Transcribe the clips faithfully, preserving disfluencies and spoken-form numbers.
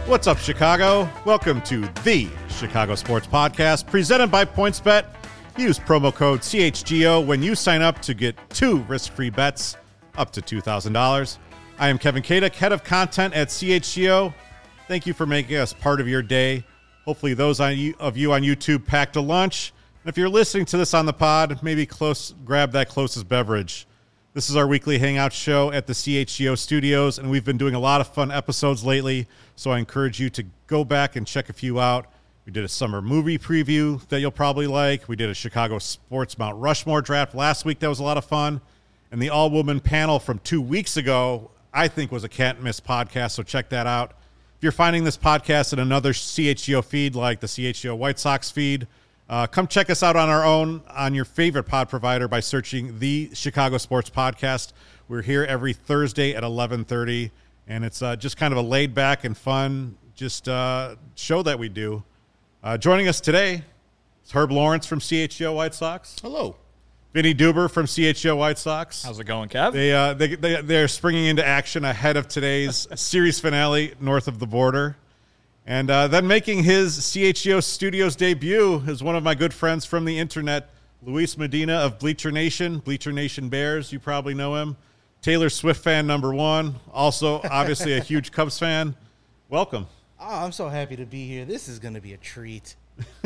What's up, Chicago? Welcome to the Chicago Sports Podcast, presented by PointsBet. Use promo code C H G O when you sign up to get two risk-free bets up to two thousand dollars. I am Kevin Kadek, head of content at C H G O. Thank you for making us part of your day. Hopefully those of you on YouTube packed a lunch. And if you're listening to this on the pod, maybe close, grab that closest beverage. This is our weekly hangout show at the C H G O studios, and we've been doing a lot of fun episodes lately, so I encourage you to go back and check a few out. We did a summer movie preview that you'll probably like. We did a Chicago Sports Mount Rushmore draft last week. That was a lot of fun. And the all-woman panel from two weeks ago, I think, was a can't-miss podcast, so check that out. If you're finding this podcast in another C H G O feed like the C H G O White Sox feed, Uh, come check us out on our own on your favorite pod provider by searching the Chicago Sports Podcast. We're here every Thursday at eleven thirty, and it's uh, just kind of a laid-back and fun just uh, show that we do. Uh, joining us today is Herb Lawrence from C H G O White Sox. Hello. Vinny Duber from C H G O White Sox. How's it going, Kev? They, uh, they, they, they're springing into action ahead of today's series finale north of the border. And uh, then making his C H G O Studios debut is one of my good friends from the internet, Luis Medina of Bleacher Nation, Bleacher Nation Bears. You probably know him. Taylor Swift fan number one. Also, obviously, a huge Cubs fan. Welcome. Oh, I'm so happy to be here. This is going to be a treat.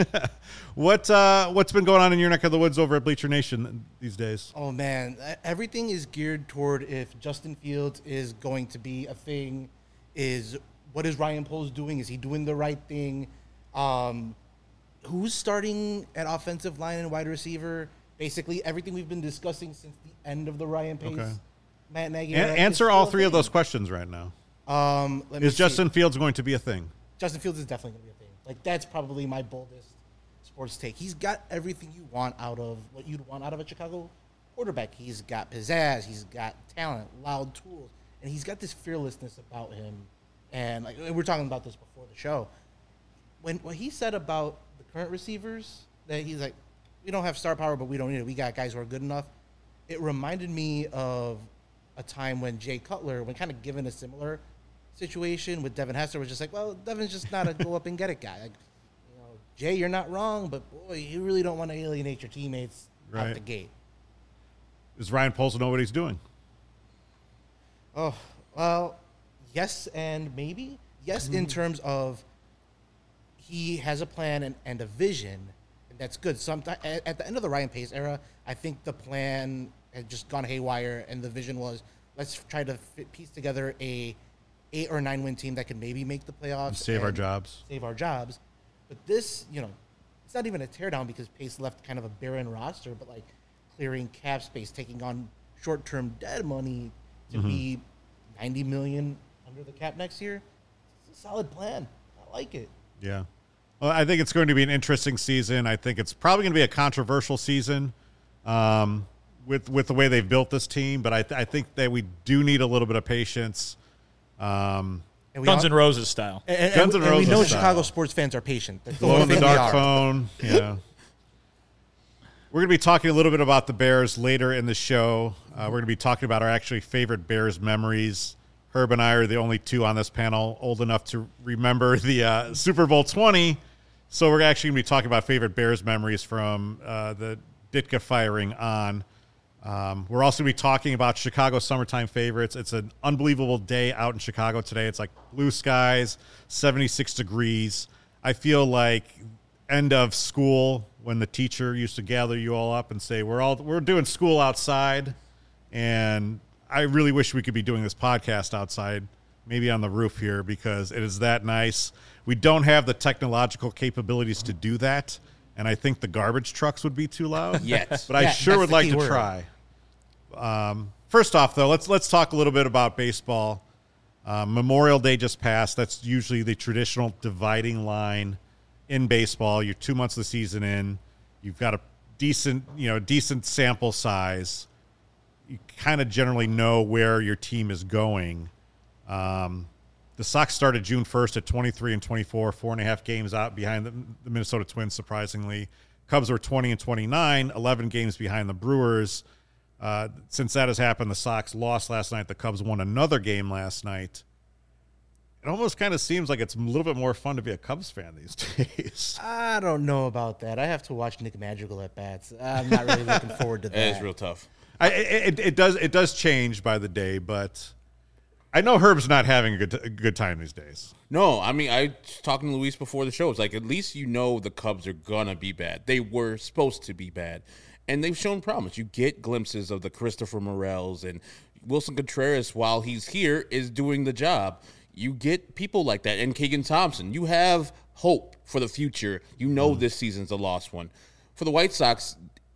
what uh, what's been going on in your neck of the woods over at Bleacher Nation these days? Oh man, everything is geared toward if Justin Fields is going to be a thing. Is What is Ryan Poles doing? Is he doing the right thing? Um, who's starting at offensive line and wide receiver? Basically, everything we've been discussing since the end of the Ryan Pace, okay. Matt Nagy. An- answer all three of those questions right now. Um, let me is see. Justin Fields going to be a thing? Justin Fields is definitely going to be a thing. Like, that's probably my boldest sports take. He's got everything you want out of what you'd want out of a Chicago quarterback. He's got pizzazz. He's got talent, loud tools, and he's got this fearlessness about him. And like we were talking about this before the show. When what he said about the current receivers, that he's like, we don't have star power, but we don't need it. We got guys who are good enough. It reminded me of a time when Jay Cutler, when kind of given a similar situation with Devin Hester, was just like, well, Devin's just not a go up and get it guy. Like, you know, Jay, you're not wrong, but boy, you really don't want to alienate your teammates right out the gate. Does Ryan Poles know what he's doing? Oh, well. Yes and maybe. Yes, in terms of he has a plan and, and a vision, and that's good. Sometime, at, at the end of the Ryan Pace era, I think the plan had just gone haywire, and the vision was, let's try to fit, piece together a eight or nine win team that can maybe make the playoffs. And save and our jobs. Save our jobs. But this, you know, it's not even a teardown because Pace left kind of a barren roster, but like clearing cap space, taking on short-term dead money to mm-hmm. be ninety million dollars under the cap next year. It's a solid plan. I like it. Yeah. Well, I think it's going to be an interesting season. I think it's probably going to be a controversial season um, with with the way they've built this team, but I, th- I think that we do need a little bit of patience. Um, and Guns N' Roses style. And, and, Guns N' and Roses we know style. Chicago sports fans are patient. Glow in the dark phone. Yeah. We're going to be talking a little bit about the Bears later in the show. Uh, we're going to be talking about our actually favorite Bears memories. Herb and I are the only two on this panel old enough to remember the uh, Super Bowl twenty. So we're actually going to be talking about favorite Bears memories from uh, the Ditka firing on. Um, we're also going to be talking about Chicago summertime favorites. It's an unbelievable day out in Chicago today. It's like blue skies, seventy-six degrees. I feel like end of school when the teacher used to gather you all up and say, we're all we're doing school outside, and I really wish we could be doing this podcast outside, maybe on the roof here, because it is that nice. We don't have the technological capabilities to do that, and I think the garbage trucks would be too loud. Yes. But I yeah, sure would like to word. try. Um, first off, though, let's let's talk a little bit about baseball. Uh, Memorial Day just passed. That's usually the traditional dividing line in baseball. You're two months of the season in. You've got a decent, you know, decent sample size. You kind of generally know where your team is going. Um, the Sox started June first at twenty-three and twenty-four, four and a half games out behind the, the Minnesota Twins, surprisingly. Cubs were twenty and twenty-nine, eleven games behind the Brewers. Uh, since that has happened, the Sox lost last night. The Cubs won another game last night. it almost kind of seems like it's a little bit more fun to be a Cubs fan these days. I don't know about that. I have to watch Nick Madrigal at bats. I'm not really looking forward to that. It is real tough. I, it, it does it does change by the day, but I know Herb's not having a good a good time these days. No, I mean, I was talking to Luis before the show. It's like, at least you know the Cubs are going to be bad. They were supposed to be bad, and they've shown promise. You get glimpses of the Christopher Morels, and Wilson Contreras, while he's here, is doing the job. You get people like that, and Keegan Thompson. You have hope for the future. You know mm. this season's a lost one. For the White Sox,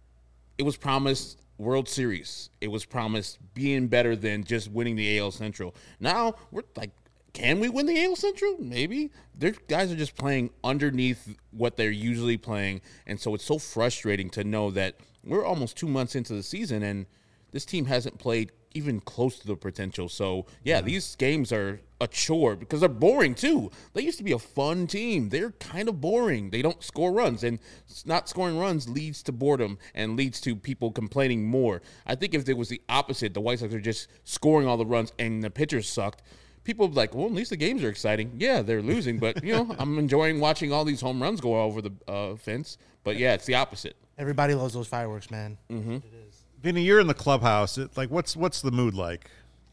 it was promised World Series. It was promised being better than just winning the A L Central. Now, we're like, can we win the A L Central? Maybe. Their guys are just playing underneath what they're usually playing, and so it's so frustrating to know that we're almost two months into the season, and this team hasn't played even close to the potential. So, yeah, mm-hmm. these games are a chore because they're boring, too. They used to be a fun team. They're kind of boring. They don't score runs, and not scoring runs leads to boredom and leads to people complaining more. I think if it was the opposite, the White Sox are just scoring all the runs and the pitchers sucked, people would be like, well, at least the games are exciting. Yeah, they're losing, but, you know, I'm enjoying watching all these home runs go over the uh, fence. But, yeah, it's the opposite. Everybody loves those fireworks, man. Mm-hmm. It is. Vinny, you're in the clubhouse. It, like, what's what's the mood like?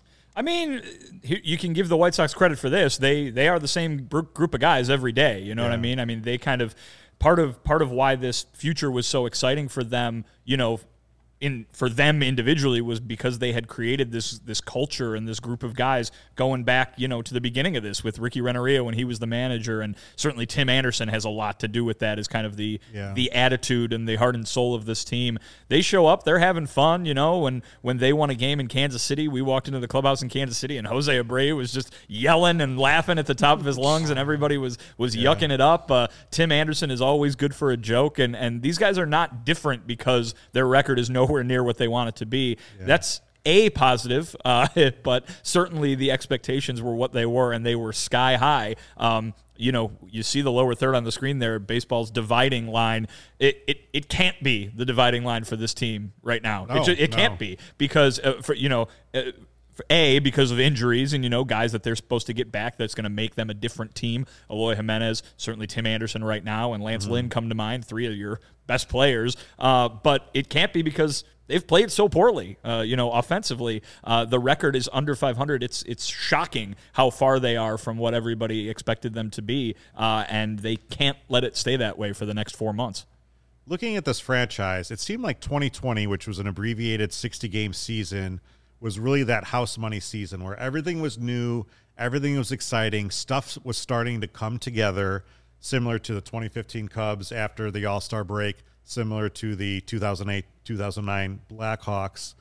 I mean, you can give the White Sox credit for this. They they are the same group of guys every day. You know yeah. what I mean? I mean, they kind of part of part of why this future was so exciting for them. You know, in for them individually was because they had created this this culture and this group of guys going back, you know, to the beginning of this with Ricky Renteria when he was the manager, and certainly Tim Anderson has a lot to do with that as kind of the yeah. the attitude and the heart and soul of this team. They show up, they're having fun, you know, and when they won a game in Kansas City, we walked into the clubhouse in Kansas City and Jose Abreu was just yelling and laughing at the top of his lungs, and everybody was was yeah. yucking it up. Uh, Tim Anderson is always good for a joke, and and these guys are not different because their record is nowhere near what they want it to be. Yeah. That's a positive, uh, but certainly the expectations were what they were, and they were sky high. Um, you know, you see the lower third on the screen there, baseball's dividing line. It it, it can't be the dividing line for this team right now. No, it just, it no. can't be because, uh, for you know, uh, for A, because of injuries and, you know, guys that they're supposed to get back that's going to make them a different team. Eloy Jimenez, certainly Tim Anderson right now, and Lance mm-hmm. Lynn come to mind, three of your best players. Uh, but it can't be because they've played so poorly, uh, you know, offensively. Uh, the record is under five hundred. It's it's shocking how far they are from what everybody expected them to be, uh, and they can't let it stay that way for the next four months. Looking at this franchise, it seemed like twenty twenty, which was an abbreviated sixty-game season, was really that house money season where everything was new, everything was exciting, stuff was starting to come together, similar to the twenty fifteen Cubs after the All-Star break, similar to the two thousand eight two thousand nine Blackhawks.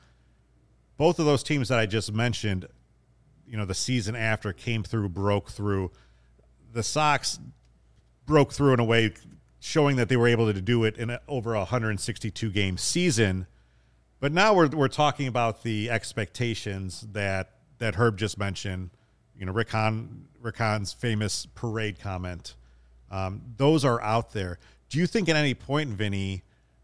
Both of those teams that I just mentioned, you know, the season after came through, broke through. The Sox broke through in a way showing that they were able to do it in a, over a one hundred sixty-two game season. But now we're we're talking about the expectations that that Herb just mentioned. You know, Rick Hahn, Rick Hahn's famous parade comment. Um, those are out there. Do you think at any point, Vinny,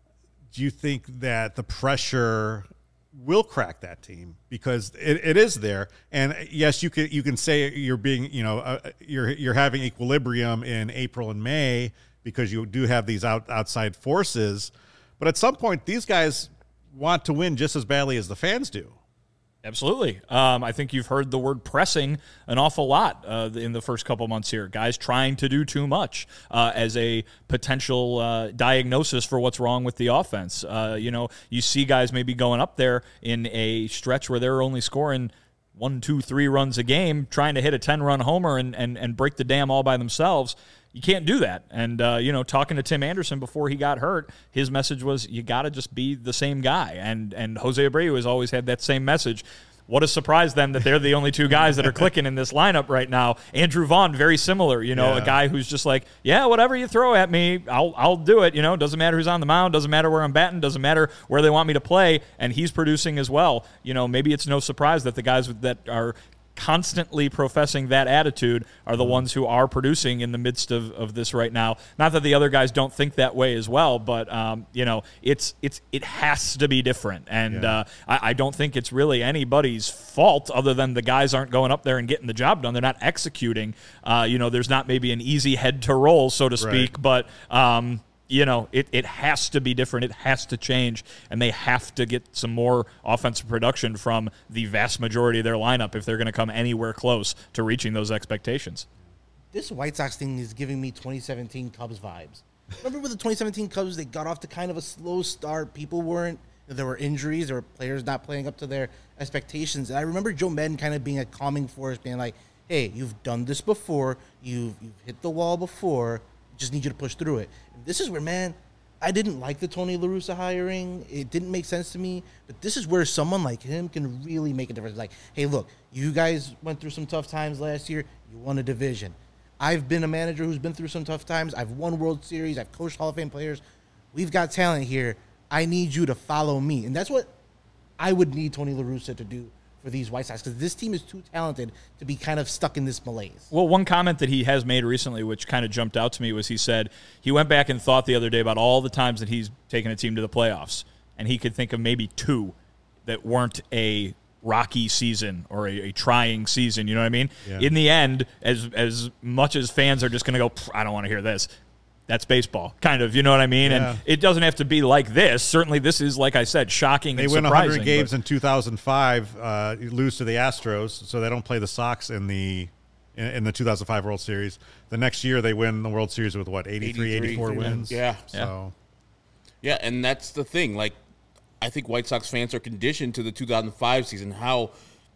do you think that the pressure will crack that team? Because it, it is there. And yes, you can you can say you're being, you know, uh, you're you're having equilibrium in April and May because you do have these out, outside forces. But at some point, these guys want to win just as badly as the fans do. Absolutely. Um, I think you've heard the word pressing an awful lot uh, in the first couple months here. Guys trying to do too much uh, as a potential uh, diagnosis for what's wrong with the offense. Uh, you know, you see guys maybe going up there in a stretch where they're only scoring one, two, three runs a game, trying to hit a ten-run homer and, and, and break the dam all by themselves. You can't do that. And, uh, you know, talking to Tim Anderson before he got hurt, his message was you got to just be the same guy. And and Jose Abreu has always had that same message. What a surprise, then, that they're the only two guys that are clicking in this lineup right now. Andrew Vaughn, very similar, you know, yeah. a guy who's just like, yeah, whatever you throw at me, I'll I'll do it. You know, doesn't matter who's on the mound, doesn't matter where I'm batting, doesn't matter where they want me to play, and he's producing as well. You know, maybe it's no surprise that the guys that are constantly professing that attitude are the ones who are producing in the midst of, of this right now. Not that the other guys don't think that way as well, but um, you know, it's it's it has to be different, and Yeah. uh, I, I don't think it's really anybody's fault other than the guys aren't going up there and getting the job done. They're not executing. Uh, you know, there's not maybe an easy head to roll, so to speak, Right. but. Um, You know, it, it has to be different. It has to change, and they have to get some more offensive production from the vast majority of their lineup if they're going to come anywhere close to reaching those expectations. This White Sox thing is giving me twenty seventeen Cubs vibes. Remember with the twenty seventeen Cubs, they got off to kind of a slow start. People weren't, there were injuries, there were players not playing up to their expectations. And I remember Joe Madden kind of being a calming force, being like, hey, you've done this before. You've, you've hit the wall before. Just need you to push through it. And this is where, man, I didn't like the Tony La Russa hiring. It didn't make sense to me. But this is where someone like him can really make a difference. Like, hey, look, you guys went through some tough times last year. You won a division. I've been a manager who's been through some tough times. I've won World Series. I've coached Hall of Fame players. We've got talent here. I need you to follow me. And that's what I would need Tony La Russa to do for these White Sox, because this team is too talented to be kind of stuck in this malaise. Well, one comment that he has made recently, which kind of jumped out to me, was he said he went back and thought the other day about all the times that he's taken a team to the playoffs, and he could think of maybe two that weren't a rocky season or a, a trying season. You know what I mean? Yeah. In the end, as as much as fans are just going to go, I don't want to hear this. That's baseball, kind of, you know what I mean? Yeah. And it doesn't have to be like this. Certainly this is, like I said, shocking They and win surprising. one hundred games but- in two thousand five, uh, lose to the Astros, so they don't play the Sox in the in, in the two thousand five World Series. The next year, they win the World Series with, what, eighty-three, eighty-four wins? Yeah. So, Yeah, and that's the thing. Like, I think White Sox fans are conditioned to the two thousand five season, how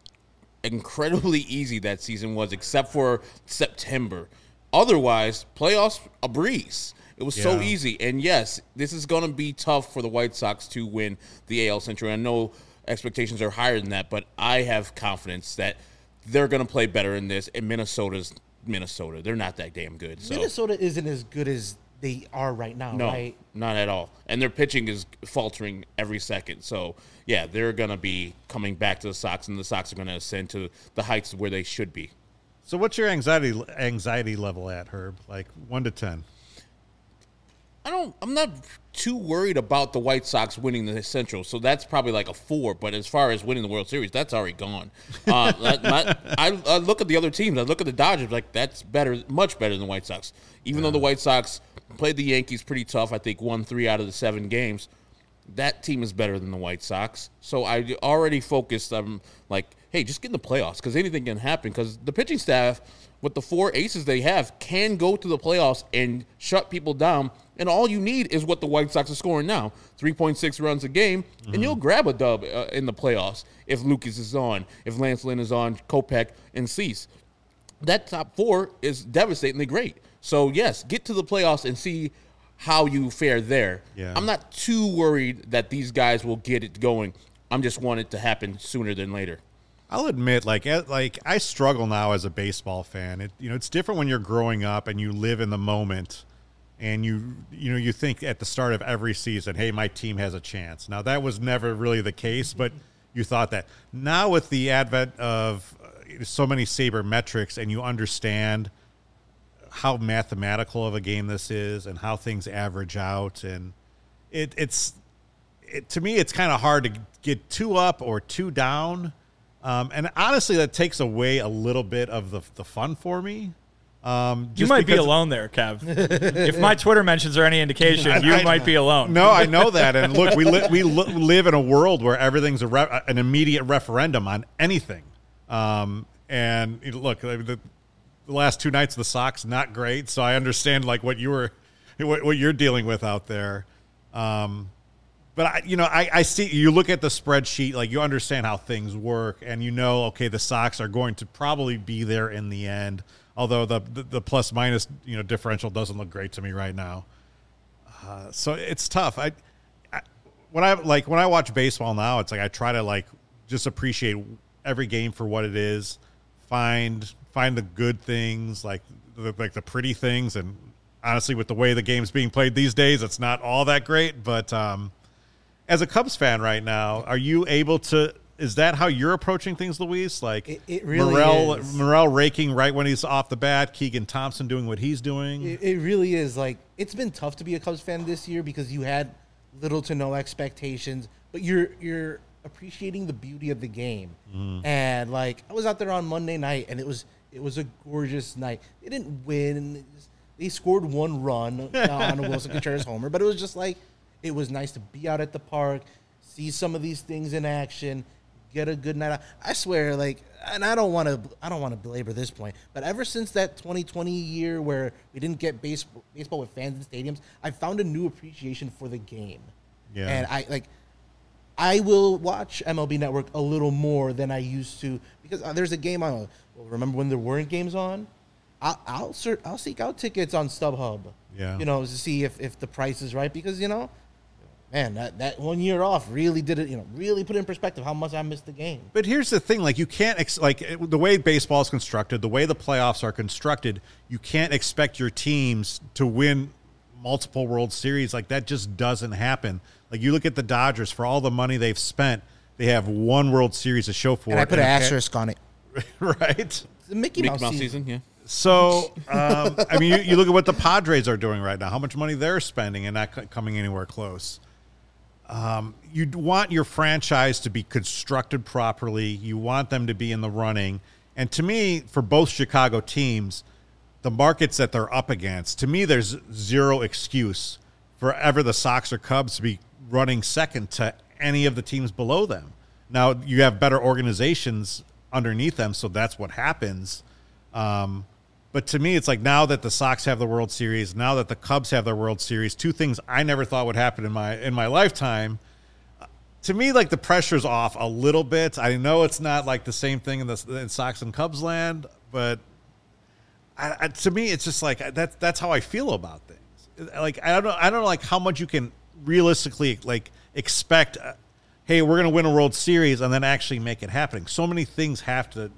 incredibly easy that season was, except for September. Otherwise, playoffs, a breeze. It was so Yeah. easy. And yes, this is going to be tough for the White Sox to win the A L Central. I know expectations are higher than that, but I have confidence that they're going to play better in this. And Minnesota's Minnesota. They're not that damn good. So. Minnesota isn't as good as they are right now, No, right? not at all. And their pitching is faltering every second. So, yeah, they're going to be coming back to the Sox, and the Sox are going to ascend to the heights where they should be. so what's your anxiety anxiety level at, Herb? Like one to ten? I don't. I'm not too worried about the White Sox winning the Central, so that's probably like a four. But as far as winning the World Series, that's already gone. Uh, that, my, I, I look at the other teams. I look at the Dodgers. Like that's better, much better than the White Sox. Even though the White Sox played the Yankees pretty tough, I think won three out of the seven games. That team is better than the White Sox. So I already focused on like, hey, just get in the playoffs because anything can happen. Because the pitching staff, with the four aces they have, can go to the playoffs and shut people down. And all you need is what the White Sox are scoring now, three point six runs a game, mm-hmm. and you'll grab a dub uh, in the playoffs if Lucas is on, if Lance Lynn is on, Kopech, and Cease. That top four is devastatingly great. So, yes, get to the playoffs and see how you fare there. Yeah. I'm not too worried that these guys will get it going. I'm just want it to happen sooner than later. I'll admit, like, eh, like I struggle now as a baseball fan. It, you know, it's different when you're growing up and you live in the moment, and you, you know, you think at the start of every season, "Hey, my team has a chance." Now, that was never really the case, but you thought that. Now, with the advent of uh, so many sabermetrics, and you understand how mathematical of a game this is, and how things average out, and it, it's, it, to me, it's kind of hard to get too up or too down. Um, and honestly, that takes away a little bit of the the fun for me. Um, you just might be because- alone there, Kev. If my Twitter mentions are any indication, you I- might be alone. No, I know that. And look, we li- we li- live in a world where everything's a re- an immediate referendum on anything. Um, and you know, look, the, the last two nights of the Sox not great, so I understand like what you were, what, what you're dealing with out there. Um, But, I, you know, I, I see you look at the spreadsheet, like you understand how things work, and you know, okay, the Sox are going to probably be there in the end, although the the, the plus minus, you know, differential doesn't look great to me right now. Uh, so it's tough. I, I when I like when I watch baseball now, it's like I try to like just appreciate every game for what it is, find find the good things, like the, like the pretty things, and honestly, with the way the game's being played these days, it's not all that great, but um, as a Cubs fan right now, are you able to is that how you're approaching things, Luis? Like It- it really Morel, is. Morel raking right when he's off the bat, Keegan Thompson doing what he's doing. It, it really is. Like, it's been tough to be a Cubs fan this year because you had little to no expectations, but you're you're appreciating the beauty of the game. Mm. And like, I was out there on Monday night, and it was it was a gorgeous night. They didn't win. They, just, they scored one run on a Wilson Contreras homer, but it was just like, it was nice to be out at the park, see some of these things in action, get a good night out. I swear, like, and I don't want to, I don't want to belabor this point, but ever since that twenty twenty year where we didn't get baseball, baseball with fans in stadiums, I found a new appreciation for the game. Yeah. And I like, I will watch M L B Network a little more than I used to because uh, there's a game on. Well, remember when there weren't games on? I'll I'll, cert, I'll seek out tickets on StubHub. Yeah. You know, to see if, if the price is right because you know, man, that, that one year off really did it. You know, really put in perspective how much I missed the game. But here's the thing: like you can't ex- like it, the way baseball is constructed, the way the playoffs are constructed, you can't expect your teams to win multiple World Series. Like that just doesn't happen. Like you look at the Dodgers for all the money they've spent, they have one World Series to show for And it. I put an and- asterisk on it. right. The Mickey, Mickey Mouse, Mouse season. season, yeah. So, um, I mean, you, you look at what the Padres are doing right now, how much money they're spending and not c- coming anywhere close. Um, you want your franchise to be constructed properly. You want them to be in the running. And to me, for both Chicago teams, the markets that they're up against, to me, there's zero excuse for ever the Sox or Cubs to be running second to any of the teams below them. Now, you have better organizations underneath them, so that's what happens. Um, but to me, it's like now that the Sox have the World Series, now that the Cubs have their World Series, two things I never thought would happen in my in my lifetime. To me, like the pressure's off a little bit. I know it's not like the same thing in the in Sox and Cubs land, but I, I, to me, it's just like that's that's how I feel about things. Like I don't know, I don't know, like how much you can realistically like expect. Uh, hey, we're going to win a World Series and then actually make it happen. So many things have to.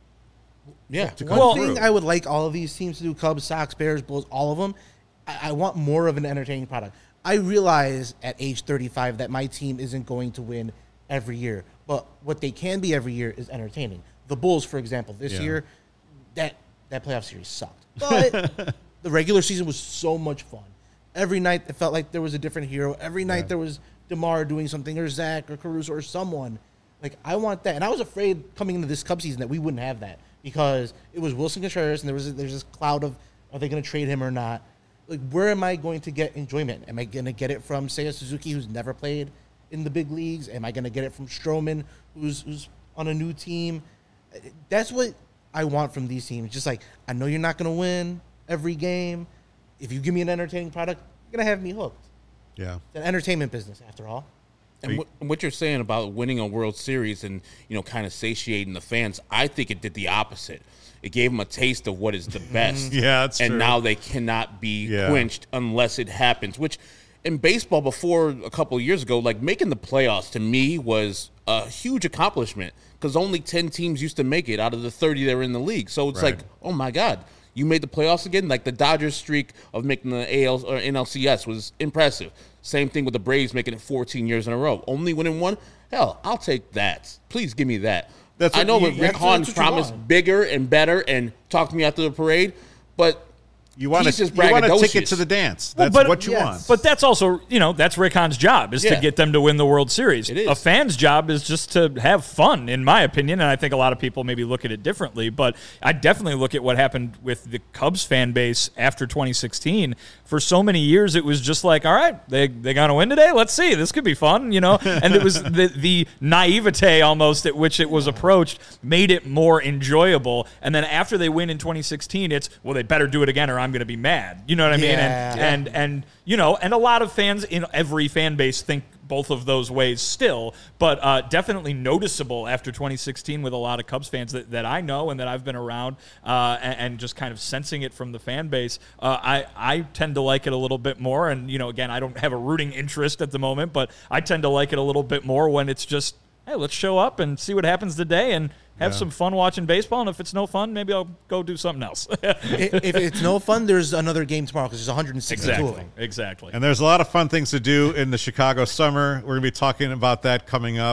Yeah. to One come thing through. I would like all of these teams to do, Cubs, Sox, Bears, Bulls, all of them, I, I want more of an entertaining product. I realize at age thirty-five that my team isn't going to win every year, but what they can be every year is entertaining. The Bulls, for example, this Yeah. year, that, that playoff series sucked. But the regular season was so much fun. Every night it felt like there was a different hero. Every night Yeah. there was DeMar doing something, or Zach, or Caruso, or someone. Like, I want that. And I was afraid coming into this Cubs season that we wouldn't have that because it was Wilson Contreras, and there was a, there's this cloud of, are they going to trade him or not? Like, where am I going to get enjoyment? Am I going to get it from Seiya Suzuki, who's never played in the big leagues? Am I going to get it from Stroman, who's who's on a new team? That's what I want from these teams. Just like, I know you're not going to win every game. If you give me an entertaining product, you're going to have me hooked. Yeah. It's an entertainment business, after all. And what, what you're saying about winning a World Series and, you know, kind of satiating the fans, I think it did the opposite. It gave them a taste of what is the best. Yeah, that's and true. now they cannot be Yeah. quenched unless it happens, which in baseball before a couple of years ago, like making the playoffs to me was a huge accomplishment because only ten teams used to make it out of the thirty that were in the league. So it's Right. like, oh my God, you made the playoffs again? Like the Dodgers streak of making the A L or N L C S was impressive. Same thing with the Braves making it fourteen years in a row. Only winning one? Hell, I'll take that. Please give me that. That's I what know you- that Rick that's- Hahn that's what you promised want. bigger and better and talked to me after the parade, but You want he's to just you want a ticket braggadocious. to the dance. Well, That's but- what you yes. want. But that's also, you know, that's Rick Hahn's job is Yeah. to get them to win the World Series. It is. A fan's job is just to have fun, in my opinion, and I think a lot of people maybe look at it differently. But I definitely look at what happened with the Cubs fan base after twenty sixteen. For so many years, it was just like, all right, they they gonna win today. Let's see, this could be fun, you know. And it was the the naivete almost at which it was approached made it more enjoyable. And then after they win in twenty sixteen, it's well, they better do it again, or I'm gonna be mad. You know what I mean? Yeah. And, and and you know, and a lot of fans in every fan base think both of those ways still, but uh, definitely noticeable after twenty sixteen with a lot of Cubs fans that, that I know and that I've been around, uh, and, and just kind of sensing it from the fan base. Uh, I I tend to like it a little bit more, and you know, again, I don't have a rooting interest at the moment, but I tend to like it a little bit more when it's just, hey, let's show up and see what happens today and have Yeah. some fun watching baseball. And if it's no fun, maybe I'll go do something else. I- if it's no fun, there's another game tomorrow because there's one hundred sixty-two of exactly, them. exactly. And there's a lot of fun things to do in the Chicago summer. We're going to be talking about that coming up.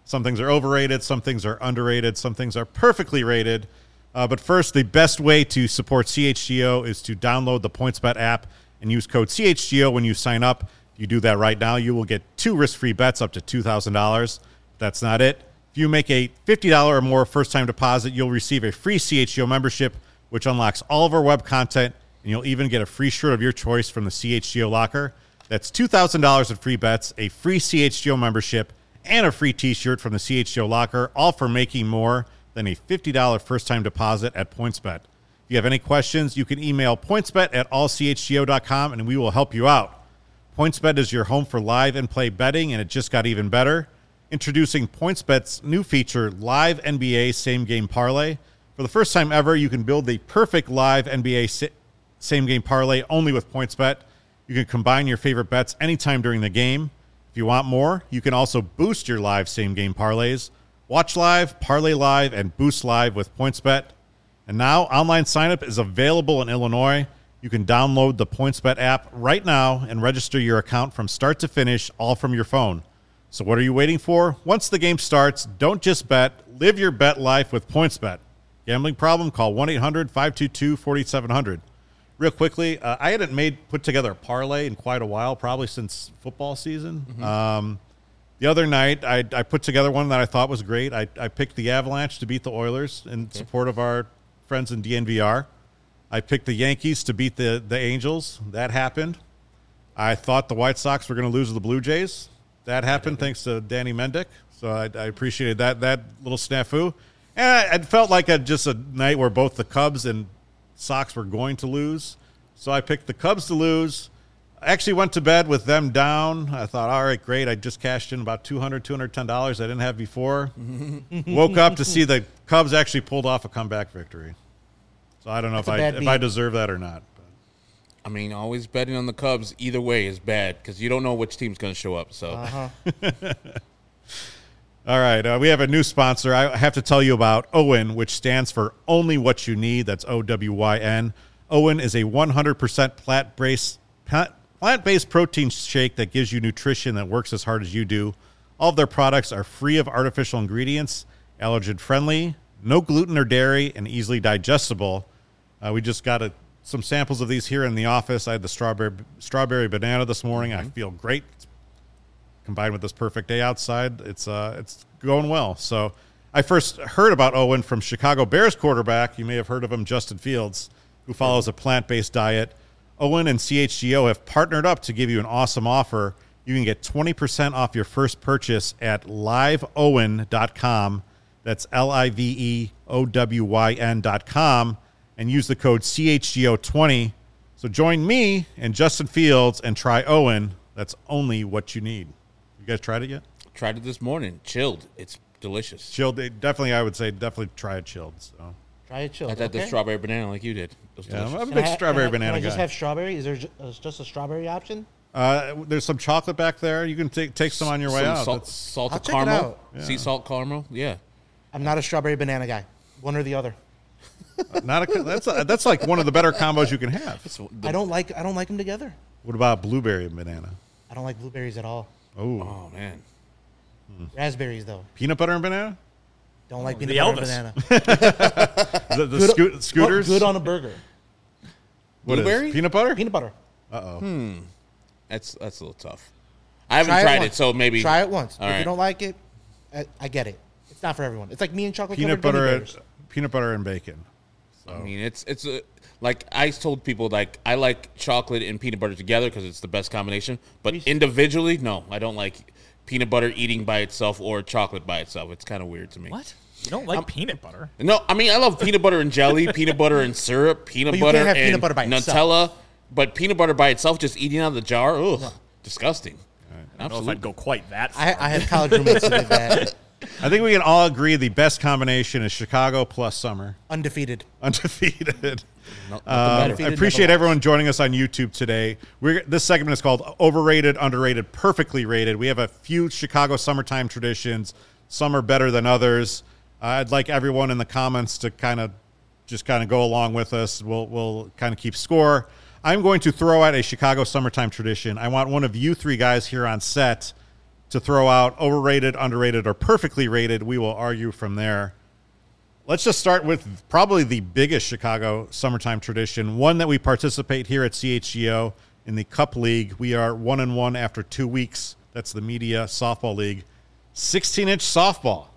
Some things are overrated. Some things are underrated. Some things are perfectly rated. Uh, but first, the best way to support C H G O is to download the PointsBet app and use code C H G O when you sign up. If you do that right now, you will get two risk-free bets up to two thousand dollars. That's not it. If you make a fifty dollars or more first-time deposit, you'll receive a free C H G O membership, which unlocks all of our web content, and you'll even get a free shirt of your choice from the C H G O locker. That's two thousand dollars in free bets, a free C H G O membership, and a free t-shirt from the C H G O locker, all for making more than a fifty dollars first-time deposit at PointsBet. If you have any questions, you can email pointsbet at all c h g o dot com, and we will help you out. PointsBet is your home for live and play betting, and it just got even better. Introducing PointsBet's new feature, Live N B A Same Game Parlay. For the first time ever, you can build the perfect live N B A sa- Same Game Parlay only with PointsBet. You can combine your favorite bets anytime during the game. If you want more, you can also boost your live Same Game Parlays. Watch live, parlay live, and boost live with PointsBet. And now, online signup is available in Illinois. You can download the PointsBet app right now and register your account from start to finish, all from your phone. So what are you waiting for? Once the game starts, don't just bet. Live your bet life with PointsBet. Gambling problem? Call one eight hundred five two two four seven zero zero. Real quickly, uh, I hadn't made put together a parlay in quite a while, probably since football season. Mm-hmm. Um, the other night, I, I put together one that I thought was great. I, I picked the Avalanche to beat the Oilers in okay. support of our friends in D N V R. I picked the Yankees to beat the, the Angels. That happened. I thought the White Sox were going to lose to the Blue Jays. That happened thanks to Danny Mendick. So I, I appreciated that that little snafu. And I, it felt like a, just a night where both the Cubs and Sox were going to lose. So I picked the Cubs to lose. I actually went to bed with them down. I thought, all right, great. I just cashed in about two hundred dollars, two hundred ten dollars I didn't have before. Woke up to see the Cubs actually pulled off a comeback victory. So I don't know if I if I deserve that or not. But. I mean, always betting on the Cubs either way is bad because you don't know which team's going to show up. So, Uh-huh. All right, uh, we have a new sponsor. I have to tell you about OWYN, which stands for Only What You Need. That's O W Y N. OWYN is a one hundred percent plant-based plant-based protein shake that gives you nutrition that works as hard as you do. All of their products are free of artificial ingredients, allergen-friendly, no gluten or dairy, and easily digestible. Uh, we just got a, some samples of these here in the office. I had the strawberry strawberry banana this morning. Mm-hmm. I feel great. It's combined with this perfect day outside, it's uh, it's going well. So I first heard about OWYN from Chicago Bears quarterback. You may have heard of him, Justin Fields, who follows a plant-based diet. OWYN and C H G O have partnered up to give you an awesome offer. You can get twenty percent off your first purchase at live owyn dot com. That's L I V E O W Y N dot com. And use the code C H G O twenty. So join me and Justin Fields and try OWYN. That's only what you need. You guys tried it yet? Tried it this morning. Chilled. It's delicious. Chilled. Definitely, I would say definitely try it chilled. So Try it chilled. I had okay. the strawberry banana like you did. It was yeah, delicious. I'm a Can big I ha- strawberry can I, banana can I guy. just have strawberry? Is there ju- uh, just a strawberry option? Uh, there's some chocolate back there. You can take take some on your way Some out. Salt, That's- salt I'll of check it caramel. out. Yeah. Sea salt caramel. Yeah. I'm not a strawberry banana guy. One or the other. Not a, that's a, that's like one of the better combos you can have. It's the- I don't like I don't like them together. What about blueberry and banana? I don't like blueberries at all. Oh, Oh man. Raspberries though. peanut butter and banana? Don't like the peanut butter Elvis. and banana. The, the Good- sco- scooters? Good on a burger. What is- Blueberry? peanut butter? Peanut butter. Uh-oh. That's that's a little tough. I haven't Try tried it, once. so maybe Try it once. All if right. you don't like it, I, I get it. It's not for everyone. It's like me and chocolate Peanut covered butter, gummy and, bears. peanut butter and bacon. I mean, it's it's a, like I told people like I like chocolate and peanut butter together because it's the best combination. But Reese- individually, no, I don't like peanut butter eating by itself or chocolate by itself. It's kind of weird to me. What? You don't like peanut butter? No, I mean I love peanut butter and jelly, peanut butter and syrup, peanut But you butter can't have and peanut butter by Nutella. itself. But peanut butter by itself, just eating out of the jar, ugh, disgusting. I don't know if I'd go quite that far. I, I had college roommates who did that. I think we can all agree the best combination is Chicago plus summer. Undefeated. Undefeated. No, Uh, nothing I better. Undefeated appreciate never everyone joining us on YouTube today. We're, this segment is called Overrated, Underrated, Perfectly Rated. We have a few Chicago summertime traditions. Some are better than others. Uh, I'd like everyone in the comments to kind of just kind of go along with us. We'll we'll kind of keep score. I'm going to throw out a Chicago summertime tradition. I want one of you three guys here on set to throw out, overrated, underrated, or perfectly rated. We will argue from there. Let's just start with probably the biggest Chicago summertime tradition, one that we participate here at C H G O in the Cup League. We are one and one after two weeks. That's the Media Softball League. sixteen-inch softball.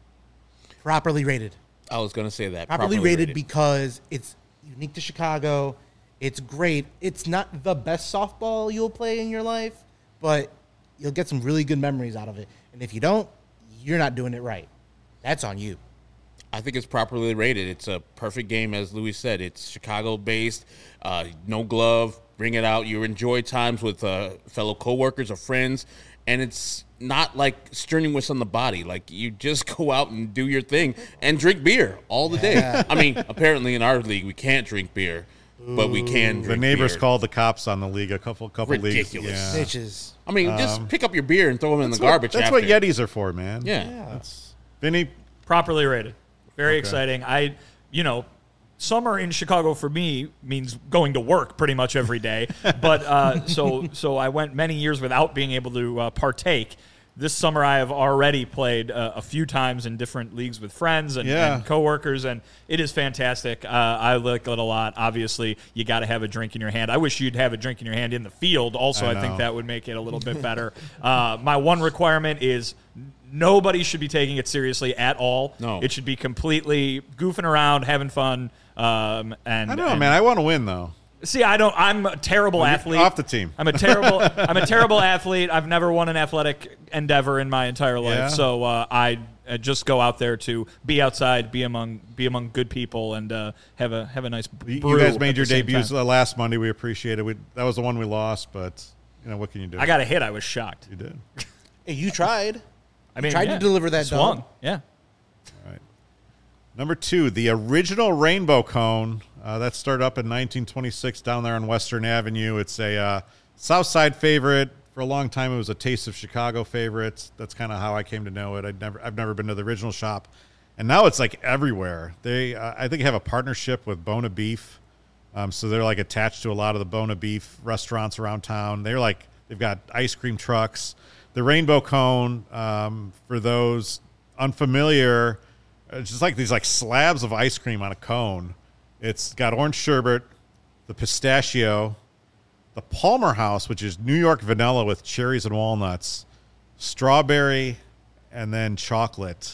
Properly rated. I was going to say that. Properly, properly rated, rated because it's unique to Chicago. It's great. It's not the best softball you'll play in your life, but you'll get some really good memories out of it. And if you don't, you're not doing it right. That's on you. I think it's properly rated. It's a perfect game, as Louis said. It's Chicago-based, uh, no glove, bring it out. You enjoy times with uh, fellow coworkers or friends, and it's not like strenuous on the body. Like, you just go out and do your thing and drink beer all the Yeah. day. I mean, apparently in our league we can't drink beer, but we can drink The neighbors beer. called the cops on the league a couple couple Ridiculous. leagues. Yeah. Bitches. I mean, just pick up your beer and throw them in the That's what- garbage That's after. what Yetis are for, man. Yeah. That's, Vinny, Properly rated. Very Okay. exciting. I, you know, summer in Chicago for me means going to work pretty much every day. But uh, so so I went many years without being able to uh, partake. This summer I have already played uh, a few times in different leagues with friends and, Yeah. and coworkers, and it is fantastic. Uh, I like it a lot. Obviously, you got to have a drink in your hand. I wish you'd have a drink in your hand in the field. Also, I I, think know. that would make it a little bit better. Uh, my one requirement is nobody should be taking it seriously at all. No. It should be completely goofing around, having fun. Um, and I don't know, and- man. I want to win, though. See, I don't. I'm a terrible Well, you're athlete. off the team. I'm a terrible. I'm a terrible athlete. I've never won an athletic endeavor in my entire life. Yeah. So uh, I uh, just go out there to be outside, be among be among good people, and uh, have a have a nice. You brew you guys at made the your same debuts time. uh, last Monday. We appreciate it. We, that was the one we lost, but you know what can you do? I got a hit. I was shocked. You did. Hey, you tried. I mean, tried yeah, to deliver that swung. dog. Yeah. All right. Number two, the original rainbow cone. Uh, that started up in nineteen twenty-six down there on Western Avenue. It's a uh, South Side favorite. For a long time, it was a Taste of Chicago favorite. That's kind of how I came to know it. I'd never, I've never been to the original shop, and now it's like everywhere. They, uh, I think, have a partnership with Bona Beef, um, so they're like attached to a lot of the Bona Beef restaurants around town. They're like they've got ice cream trucks. The rainbow cone, um, for those unfamiliar, it's just like these like slabs of ice cream on a cone. It's got orange sherbet, the pistachio, the Palmer House, which is New York vanilla with cherries and walnuts, strawberry, and then chocolate.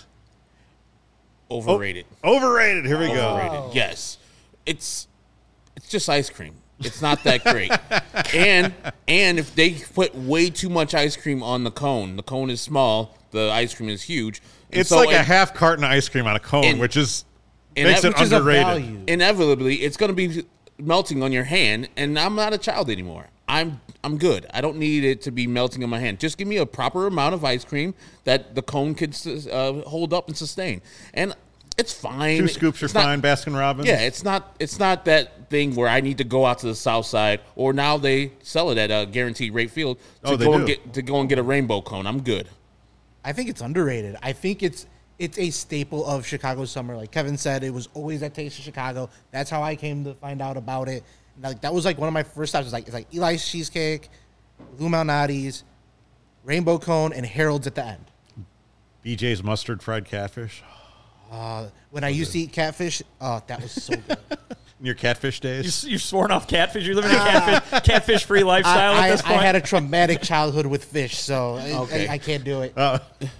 Overrated. Oh, overrated. Here we Overrated. go. Yes. It's it's just ice cream. It's not that great. and and if they put way too much ice cream on the cone, the cone is small, the ice cream is huge. And It's so like a it- half carton of ice cream on a cone, And- which is and makes that- it which is a underrated. value. inevitably it's going to be melting on your hand, and I'm not a child anymore. I'm I'm good. I don't need it to be melting on my hand. Just give me a proper amount of ice cream that the cone could uh, hold up and sustain, and it's fine. Two scoops are It's not- fine, Baskin Robbins. Yeah, it's not it's not that thing where I need to go out to the south side, or now they sell it at a guaranteed rate field to Oh, they go and do. get to go and get a rainbow cone. I'm good. I think it's underrated. I think it's it's a staple of Chicago summer. Like Kevin said, it was always that Taste of Chicago. That's how I came to find out about it. And like that was like one of my first stops. It's like it's like Eli's Cheesecake, Lou Malnati's, Rainbow Cone, and Harold's at the end. B J's mustard fried catfish. Uh, when I used to eat catfish, oh, that was so good. In your catfish You, days. you've sworn off catfish. You're living a catfish catfish free lifestyle I, at this I, point. I had a traumatic childhood with fish, so I- Okay. I, I can't do it. Uh,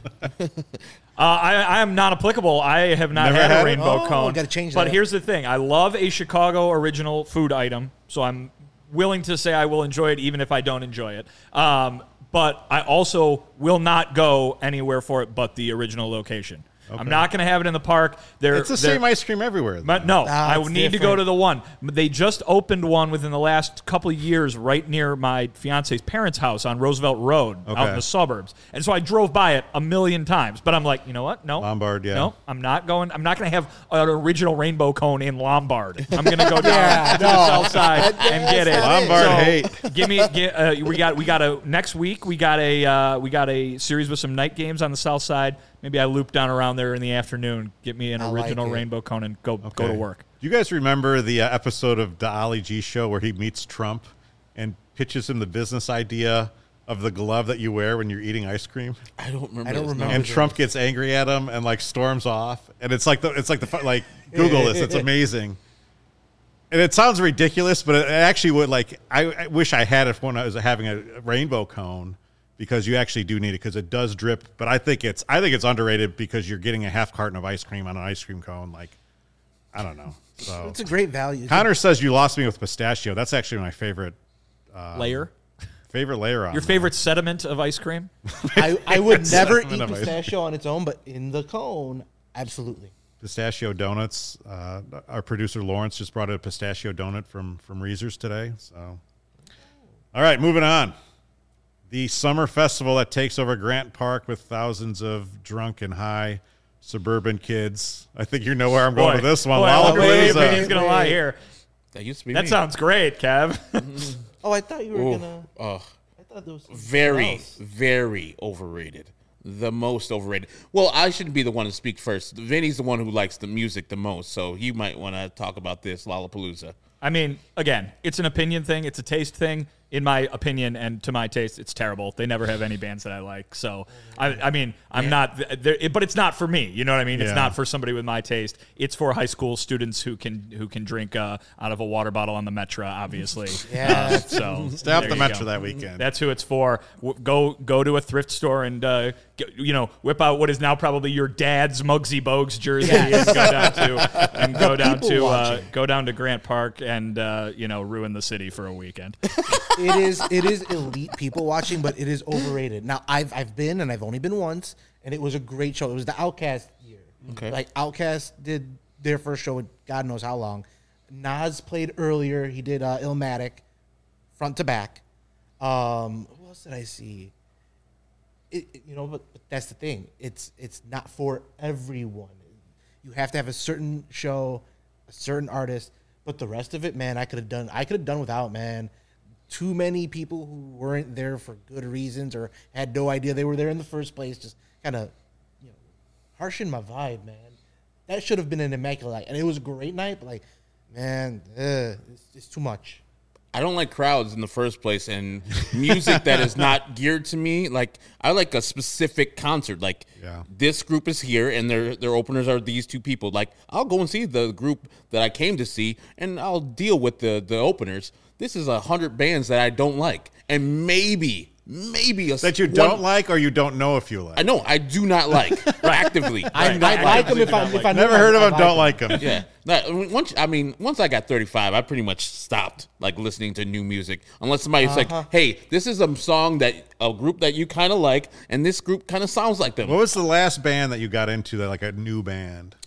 Uh, I, I am not applicable. I have not Never had, had a it? rainbow Oh, cone. gotta change But that. here's the thing: I love a Chicago original food item, so I'm willing to say I will enjoy it, even if I don't enjoy it. Um, but I also will not go anywhere for it but the original location. I'm not going to have it in the park. They're, it's the they're- same ice cream everywhere. But no, Ah, I it's need to go different. to the one. They just opened one within the last couple of years right near my fiance's parents' house on Roosevelt Road out Okay. in the suburbs. And so I drove by it a million times. But I'm like, you know what? No. Lombard, yeah. No, I'm not going. I'm not going to have an original rainbow cone in Lombard. I'm going to go down Yeah, to the no. south side and get it. Lombard So, hate. Give me. Get, uh, we got. We got a next week. We got a. Uh, we got a series with some night games on the south side. Maybe I loop down around there in the afternoon, get me an I like original it. rainbow cone, and go go Okay. to work. Do you guys remember the uh, episode of the Ali G show where he meets Trump and pitches him the business idea of the glove that you wear when you're eating ice cream? I don't remember. I don't this, remember. no. And Trump gets angry at him and like storms off, and it's like the it's like the fu- like Google this. It's amazing, and it sounds ridiculous, but it actually would like I, I wish I had it when I was having a rainbow cone because you actually do need it because it does drip. But I think it's I think it's underrated because you're getting a half carton of ice cream on an ice cream cone. Like I don't know. So It's a great value. Connor says you lost me with pistachio. That's actually my favorite Layer. favorite layer on Your there. favorite sediment of ice cream? I, I would never Sediment eat of ice. pistachio on its own, but in the cone, absolutely. Pistachio donuts. Uh, our producer Lawrence just brought a pistachio donut from from Reese's today. So, all right, moving on. The summer festival that takes over Grant Park with thousands of drunk and high suburban kids. I think you know where I'm going with this one. Boy, I wonder whether Lollapalooza. he's going to lie here. That used to be That me. sounds great, Kev. Oh, I thought you were Ooh, gonna. oh, I thought there was something very, else. very overrated. The most overrated. Well, I shouldn't be the one to speak first. Vinny's the one who likes the music the most, so he might want to talk about this Lollapalooza. I mean, again, it's an opinion thing. It's a taste thing. In my opinion and to my taste, it's terrible. They never have any bands that I like. So, I, I mean, I'm not, there, but it's not for me. You know what I mean? It's Yeah. not for somebody with my taste. It's for high school students who can who can drink uh, out of a water bottle on the Metro, obviously. Yeah. Uh, so Stay off there the you Metro go. that weekend. That's who it's for. W- Go go to a thrift store and uh, get, you know whip out what is now probably your dad's Muggsy Bogues jersey and go down to and go down people to uh, watching. go down to Grant Park and uh, you know ruin the city for a weekend. It is it is elite people watching, but it is overrated. Now I've I've been and I've only been once, and it was a great show. It was the Outkast year. Okay. Like Outkast did their first show in God knows how long. Nas played earlier. He did uh, Illmatic, front to back. Um, who else did I see? It, it- you know, but, but that's the thing. It's it's not for everyone. You have to have a certain show, a certain artist. But the rest of it, man, I could have done. I could have done without, man. Too many people who weren't there for good reasons or had no idea they were there in the first place. Just kind of, you know, harshing my vibe, man. That should have been an immaculate night, and it was a great night. But like, man, ugh, it's, it's too much. I don't like crowds in the first place, and music that is not geared to me. Like I like a specific concert. Like Yeah. this group is here, and their their openers are these two people. Like I'll go and see the group that I came to see, and I'll deal with the the openers. This is a hundred bands that I don't like, and maybe maybe a that you one- don't like or you don't know if you like. I know I do not like actively. I, Right. I I like them actively if do I not if like I knew Never heard of I them, don't like them. Yeah. That- once I mean, once I got thirty-five, I pretty much stopped like listening to new music. Unless somebody's like, "Hey, this is a song that a group that you kind of like, and this group kind of sounds like them." What was the last band that you got into that like a new band?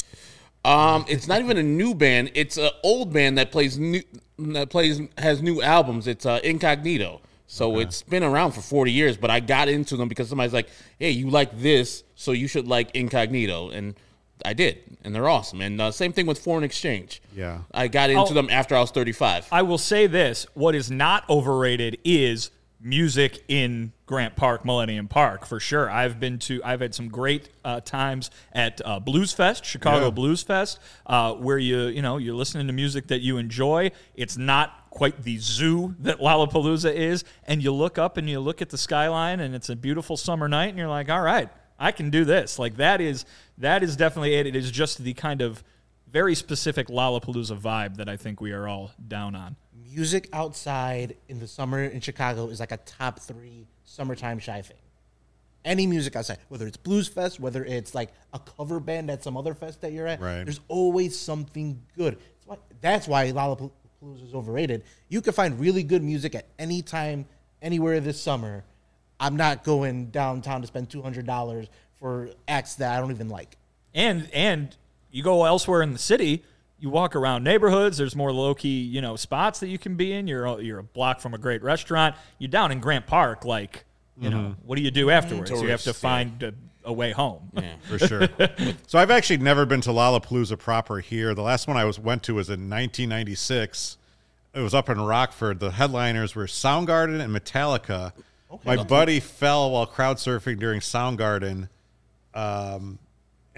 Um, it's not even a new band; it's an old band that plays new, that plays has new albums. It's uh, Incognito. So it's been around for forty years, but I got into them because somebody's like, "Hey, you like this, so you should like Incognito," and I did, and they're awesome. And uh, same thing with Foreign Exchange. Yeah. I got into Oh. them after I was thirty-five. I will say this: what is not overrated is music in Grant Park, Millennium Park, for sure. I've been to, I've had some great uh, times at uh, Blues Fest, Chicago Yeah. Blues Fest, uh, where you, you know, you're listening to music that you enjoy. It's not quite the zoo that Lollapalooza is, and you look up and you look at the skyline, and it's a beautiful summer night, and you're like, all right, I can do this. Like that is that is definitely it. It is just the kind of very specific Lollapalooza vibe that I think we are all down on. Music outside in the summer in Chicago is like a top three summertime shy thing. Any music outside, whether it's Blues Fest, whether it's like a cover band at some other fest that you're at, Right. there's always something good. That's why, that's why Lollapalooza is overrated. You can find really good music at any time, anywhere this summer. I'm not going downtown to spend two hundred dollars for acts that I don't even like. And and you go elsewhere in the city, you walk around neighborhoods. There's more low key, you know, spots that you can be in. You're you're a block from a great restaurant. You're down in Grant Park, like, you know, what do you do afterwards? you have to Tourist, find a, a way home. Yeah. For sure. So I've actually never been to Lollapalooza proper here. The last one I was went to was in nineteen ninety-six. It was up in Rockford. The headliners were Soundgarden and Metallica. My buddy fell while crowd surfing during Soundgarden, um,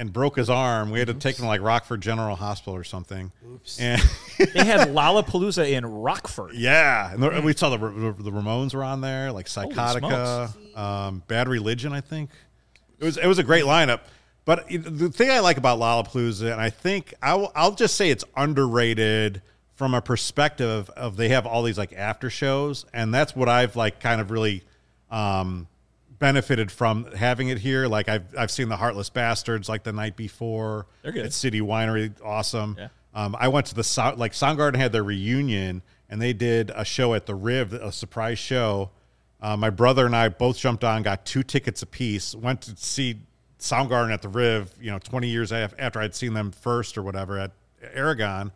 and broke his arm. We had to take him to like Rockford General Hospital or something. Oops. And They had Lollapalooza in Rockford. yeah, and the, we saw the the Ramones were on there, like Psychotica, um, Bad Religion, I think. It was it was a great lineup. But the thing I like about Lollapalooza, and I think I'll, I'll just say it's underrated from a perspective of they have all these like after shows, and that's what I've like kind of really um, benefited from having it here. Like I've I've seen the Heartless Bastards like the night before. They're good. At City Winery, awesome. Yeah. Um, I went to the so- like Soundgarden had their reunion, and they did a show at the Riv, a surprise show. Uh, my brother and I both jumped on, got two tickets apiece, went to see Soundgarden at the Riv, you know, twenty years af- after I'd seen them first or whatever at Aragon.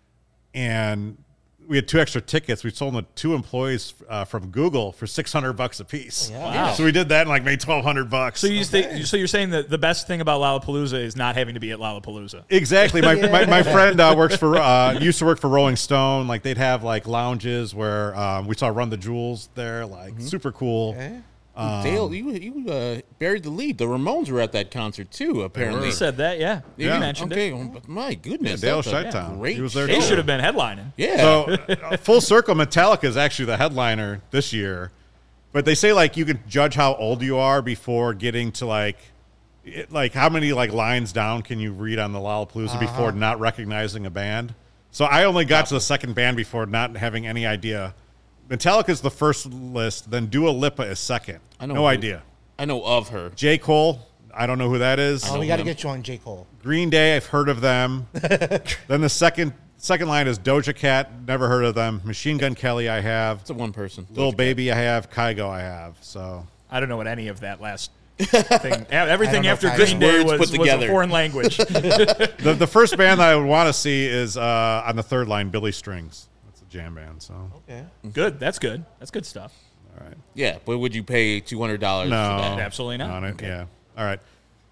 And we had two extra tickets. We sold them to two employees uh, from Google for six hundred bucks a piece. Yeah. Wow. So we did that and like made twelve hundred bucks. So you think, so you're saying that the best thing about Lollapalooza is not having to be at Lollapalooza. Exactly. My, my, my friend uh, works for, uh, used to work for Rolling Stone. Like they'd have like lounges where um, we saw Run the Jewels there, like super cool. Okay. Dale, you you uh, buried the lead. The Ramones were at that concert too. Apparently, You said that, yeah. You Yeah. mentioned okay, it. well, but my goodness, Dale that's a Chi-Town. great He was there They too. should have been headlining. Yeah. So uh, full circle, Metallica is actually the headliner this year. But they say like you can judge how old you are before getting to like, it, like how many like lines down can you read on the Lollapalooza Uh-huh. before not recognizing a band. So I only got to the second band before not having any idea. Metallica's the first list, then Dua Lipa is second. I know no who- idea. I know of her. J. Cole, I don't know who that is. Oh, we got to him. get you on J. Cole. Green Day, I've heard of them. Then the second second line is Doja Cat, never heard of them. Machine Gun Kelly, I have. It's a one person. Lil Baby, I have. Kygo, I have. So I don't know what any of that last thing. Everything know after if I Green know. Day Words was, put was a together. foreign language. the the first band that I would want to see is uh, on the third line, Billy Strings. That's a jam band. So Okay. Good. That's good. That's good stuff. all right, Yeah, but would you pay two hundred dollars no, for that? Absolutely not. On it, yeah. All right.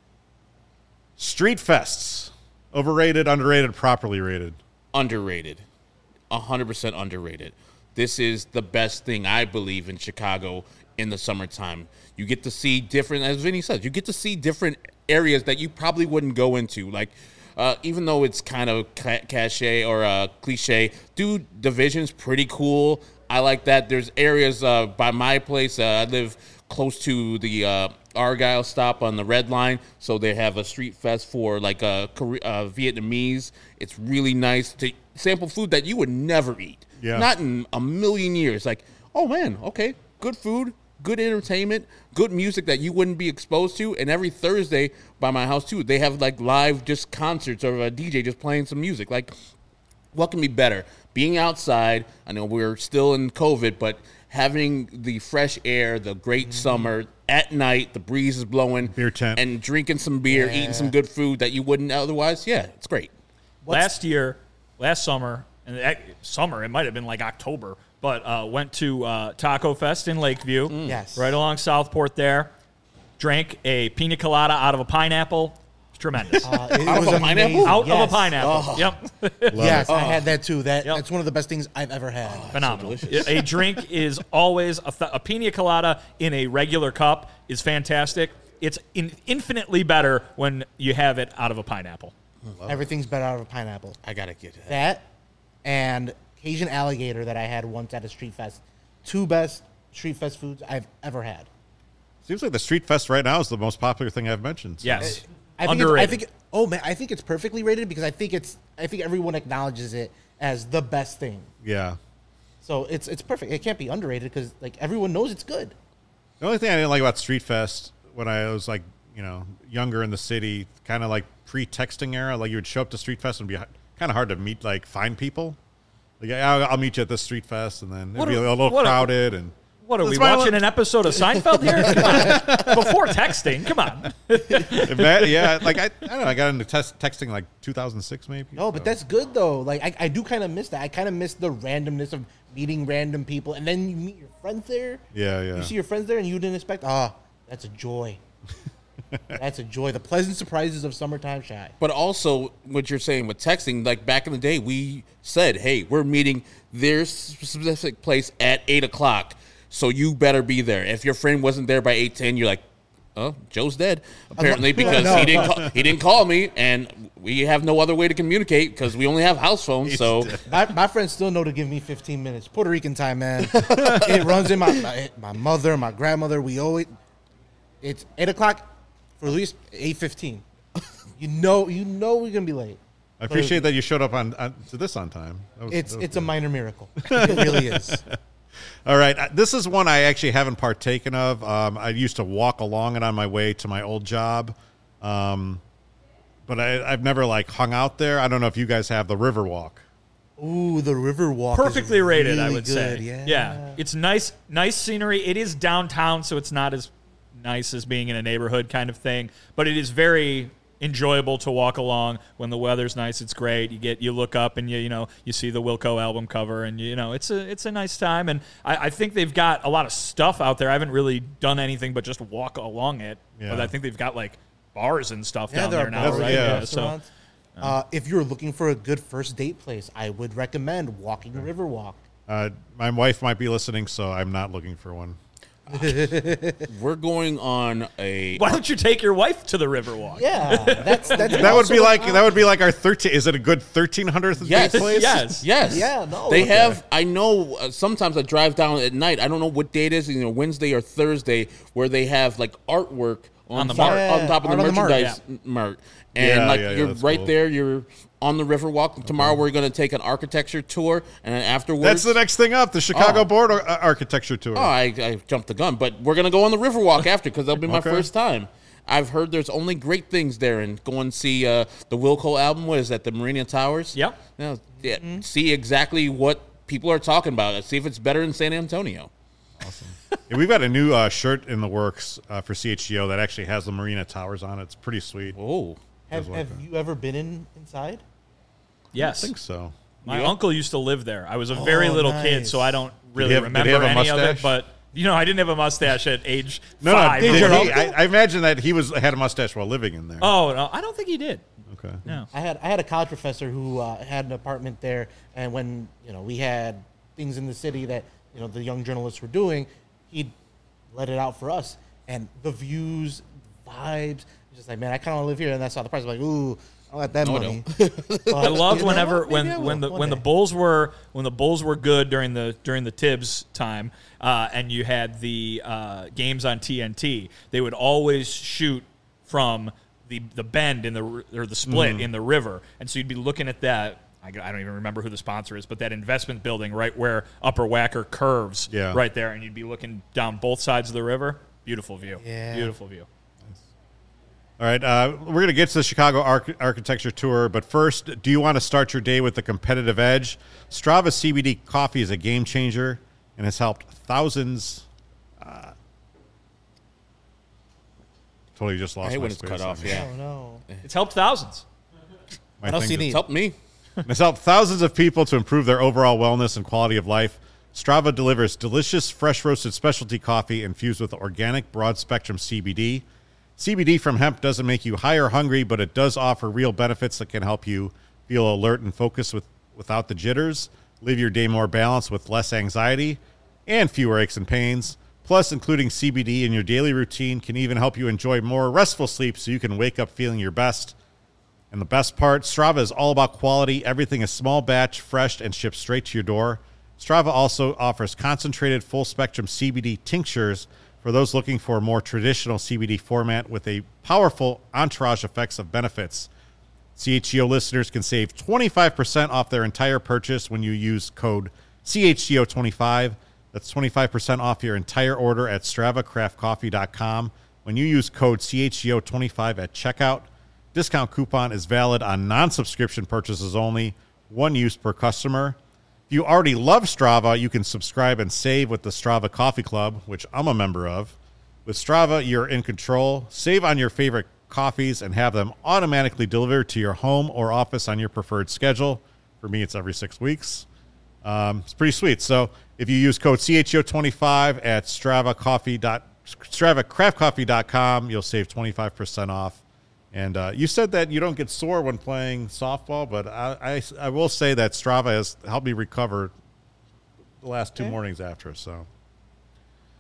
Street fests, overrated, underrated, properly rated. Underrated, a hundred percent underrated. This is the best thing I believe in Chicago in the summertime. You get to see different, as Vinny said, you get to see different areas that you probably wouldn't go into. Like, uh, even though it's kind of ca- cachet or uh, cliche, dude, Division's pretty cool. I like that. There's areas uh, by my place. Uh, I live close to the uh, Argyle stop on the Red Line, so they have a street fest for like uh, Kore- uh, Vietnamese. It's really nice to sample food that you would never eat. Yeah. Not in a million years. Like, oh man, okay, good food, good entertainment, good music that you wouldn't be exposed to. And every Thursday by my house too, they have like live just concerts or a D J just playing some music. Like, what can be better? Being outside, I know we're still in COVID, but having the fresh air, the great Mm-hmm. summer, at night, the breeze is blowing. Beer tent. And drinking some beer, Yeah. eating some good food that you wouldn't otherwise. Yeah, it's great. What's- Last year, last summer, and that- summer, it might have been like October, but uh, went to uh, Taco Fest in Lakeview. Yes. Right along Southport there. Drank a pina colada out of a pineapple. It's tremendous. Uh, it Out of was a pineapple? amazing. out of Yes. a pineapple. Yep. Yes, I had that too. That Yep. That's one of the best things I've ever had. Phenomenal. delicious. A drink is always a, th- a pina colada in a regular cup is fantastic. It's in, infinitely better when you have it out of a pineapple. Everything's better out of a pineapple. I gotta get that. That and Cajun alligator that I had once at a street fest. Two best street fest foods I've ever had. Seems like the Street Fest right now is the most popular thing I've mentioned. So. Yes. I think Underrated. It's, I think oh man, I think it's perfectly rated because I think it's I think everyone acknowledges it as the best thing. Yeah. So it's it's perfect. It can't be underrated because like everyone knows it's good. The only thing I didn't like about Street Fest when I was like, you know, younger in the city, kind of like pre-texting era, like you would show up to Street Fest and be kind of hard to meet, like find people. Like, I'll, I'll meet you at this Street Fest, and then it'd What be a- a little what a- crowded. and What are That's we my watching li- an episode of Seinfeld here? Come on. Before texting, come on. That- yeah, like I, I don't know, I got into test, texting like two thousand six maybe. No, but so. that's good though. Like I, I do kind of miss that. I kind of miss the randomness of meeting random people, and then you meet your friends there. Yeah, yeah. You see your friends there, and you didn't expect. Ah, that's a joy. That's a joy. The pleasant surprises of summertime shy. But also, what you're saying with texting, like back in the day, we said, hey, we're meeting their specific place at eight o'clock, so you better be there. If your friend wasn't there by eight ten, you're like, Oh, Joe's dead apparently because No. he didn't call, he didn't call me, and we have no other way to communicate because we only have house phones. So My, my friends still know to give me fifteen minutes. Puerto Rican time, man. It runs in my, my my mother, my grandmother. We always it's eight o'clock for at least eight fifteen. You know, you know we're gonna be late. I appreciate that you showed up on, on to this on time. That was- It's that was it's a good. minor miracle. It really is. All right, uh, this is one I actually haven't partaken of. Um, I used to walk along it on my way to my old job, um, but I, I've never like hung out there. I don't know if you guys have the Riverwalk. Ooh, the river walk. is Perfectly rated, I really would good. say. Yeah. It's nice, nice scenery. It is downtown, so it's not as nice as being in a neighborhood kind of thing, but it is very enjoyable to walk along when the weather's nice. It's great. You get you look up and you you know you see the Wilco album cover, and you know it's a it's a nice time. And I, I think they've got a lot of stuff out there. I haven't really done anything but just walk along it. Yeah. But I think they've got like bars and stuff Yeah, down there there are now, bars, right? yeah. So restaurants. Uh, if you're looking for a good first date place, I would recommend walking the Riverwalk. Uh, my wife might be listening, so I'm not looking for one. we're going on a. why don't you take your wife to the Riverwalk? Yeah, that's that's That would be also- like that would be like our thirteen. Is it a good thirteen hundredth Yes, date place? Yes. Yes. Yeah, no, They okay. have. I know. Uh, sometimes I drive down at night. I don't know what date it is. You know, Wednesday or Thursday, where they have like artwork on, On the top, mart. on top of Yeah, the art on the mart, merchandise mart, and Yeah, like yeah, yeah, you're that's right cool. there. You're on the Riverwalk. Tomorrow we're going to take an architecture tour, and then afterwards, That's the next thing up. The Chicago Oh. Board Ar- Architecture Tour. Oh, I, I jumped the gun, but we're gonna go on the Riverwalk after because that'll be my Okay. first time. I've heard there's only great things there, and go and see uh, the Wilco album. What is that? The Marina Towers. Yep. Now, yeah, see exactly what people are talking about. See if it's better in San Antonio. Yeah, we've got a new uh, shirt in the works uh, for C H G O that actually has the Marina Towers on it. It's pretty sweet. Oh, Have, like have that. you ever been in inside? Yes. I think so. My Yeah. uncle used to live there. I was a very Oh, little kid, nice. so I don't really he have- did he remember have a any of it. mustache? But you know, I didn't have a mustache at age No, five. no. Did Did your he, uncle? I, I imagine that he was had a mustache while living in there. Oh no, I don't think he did. Okay. No. I had I had a college professor who uh, had an apartment there, and when you know we had things in the city that you know the young journalists were doing, he'd let it out for us, and the views, vibes, just like man, I kind of live here, and that's how the price. I'm like, ooh, I want that No, I money. I loved whenever Maybe I when will when the one when the day. Bulls were when the Bulls were good during the during the Tibbs time, uh, and you had the uh, games on T N T. They would always shoot from the the bend in the r- or the split Mm-hmm. in the river, and so you'd be looking at that. I, I don't even remember who the sponsor is, but that investment building right where Upper Wacker curves, Yeah. right there, and you'd be looking down both sides of the river. Beautiful view. Yeah. Beautiful view. All right. Uh, we're going to get to the Chicago Arch- Architecture Tour, but first, do you want to start your day with the competitive edge? Strava C B D coffee is a game changer and has helped thousands. Uh, totally just lost I hate my when it's space cut on off. here. Yeah, Oh no. It's helped thousands. My What else thing do you just- need? it's helped me. It's helped thousands of people to improve their overall wellness and quality of life. Strava delivers delicious, fresh roasted specialty coffee infused with organic, broad spectrum C B D. C B D from hemp doesn't make you high or hungry, but it does offer real benefits that can help you feel alert and focused with, without the jitters, live your day more balanced with less anxiety and fewer aches and pains. Plus, including C B D in your daily routine can even help you enjoy more restful sleep so you can wake up feeling your best. And the best part, Strava is all about quality. Everything is small batch, fresh, and shipped straight to your door. Strava also offers concentrated full-spectrum C B D tinctures for those looking for a more traditional C B D format with a powerful entourage effects of benefits. C H G O listeners can save twenty-five percent off their entire purchase when you use code C H G O twenty-five. That's twenty-five percent off your entire order at strava craft coffee dot com when you use code C H G O twenty-five at checkout. Discount coupon is valid on non-subscription purchases only, one use per customer. If you already love Strava, you can subscribe and save with the Strava Coffee Club, which I'm a member of. With Strava, you're in control. Save on your favorite coffees and have them automatically delivered to your home or office on your preferred schedule. For me, it's every six weeks. Um, it's pretty sweet. So if you use code C H O twenty-five at strava coffee dot strava craft coffee dot com, you'll save twenty-five percent off. And uh, you said that you don't get sore when playing softball, but I, I, I will say that Strava has helped me recover the last two Okay. mornings after. So,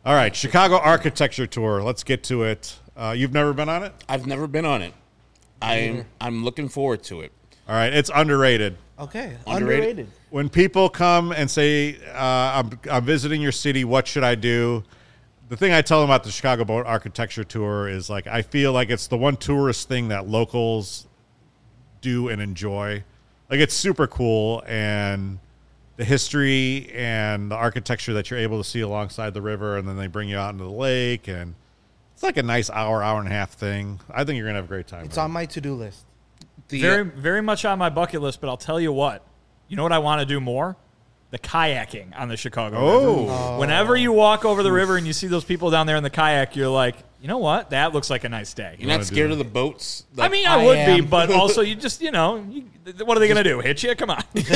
All right, Chicago Architecture Tour. Let's get to it. Uh, you've never been on it? I've never been on it. I'm I'm looking forward to it. All right, it's underrated. Okay, Underrated? underrated. When people come and say, uh, I'm, I'm visiting your city, what should I do? The thing I tell them about the Chicago Boat Architecture Tour is, like, I feel like it's the one tourist thing that locals do and enjoy. Like, it's super cool, and the history and the architecture that you're able to see alongside the river, and then they bring you out into the lake, and it's like a nice hour, hour and a half thing. I think you're going to have a great time. It's with on it. my to-do list. The, Very, very much on my bucket list, but I'll tell you what. You know what I want to do more? The kayaking on the Chicago Oh. River. Oh. Whenever you walk over the river and you see those people down there in the kayak, you're like, you know what? That looks like a nice day. You're not wanna scared do of the boats? I Like, mean, I, I would am. be, but also you just, you know, you, what are they going to do? Hit you? Come on. Famous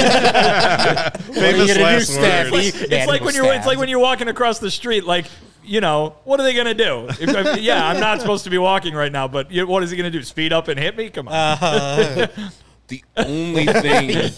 gonna do, last Steph? word. He- It's Yeah, like he when was you're it's like stabbed. when you're walking across the street, like, you know, what are they going to do? If, if- yeah, I'm not supposed to be walking right now, but you, what is he going to do? Speed up and hit me? Come on. Uh, the only thing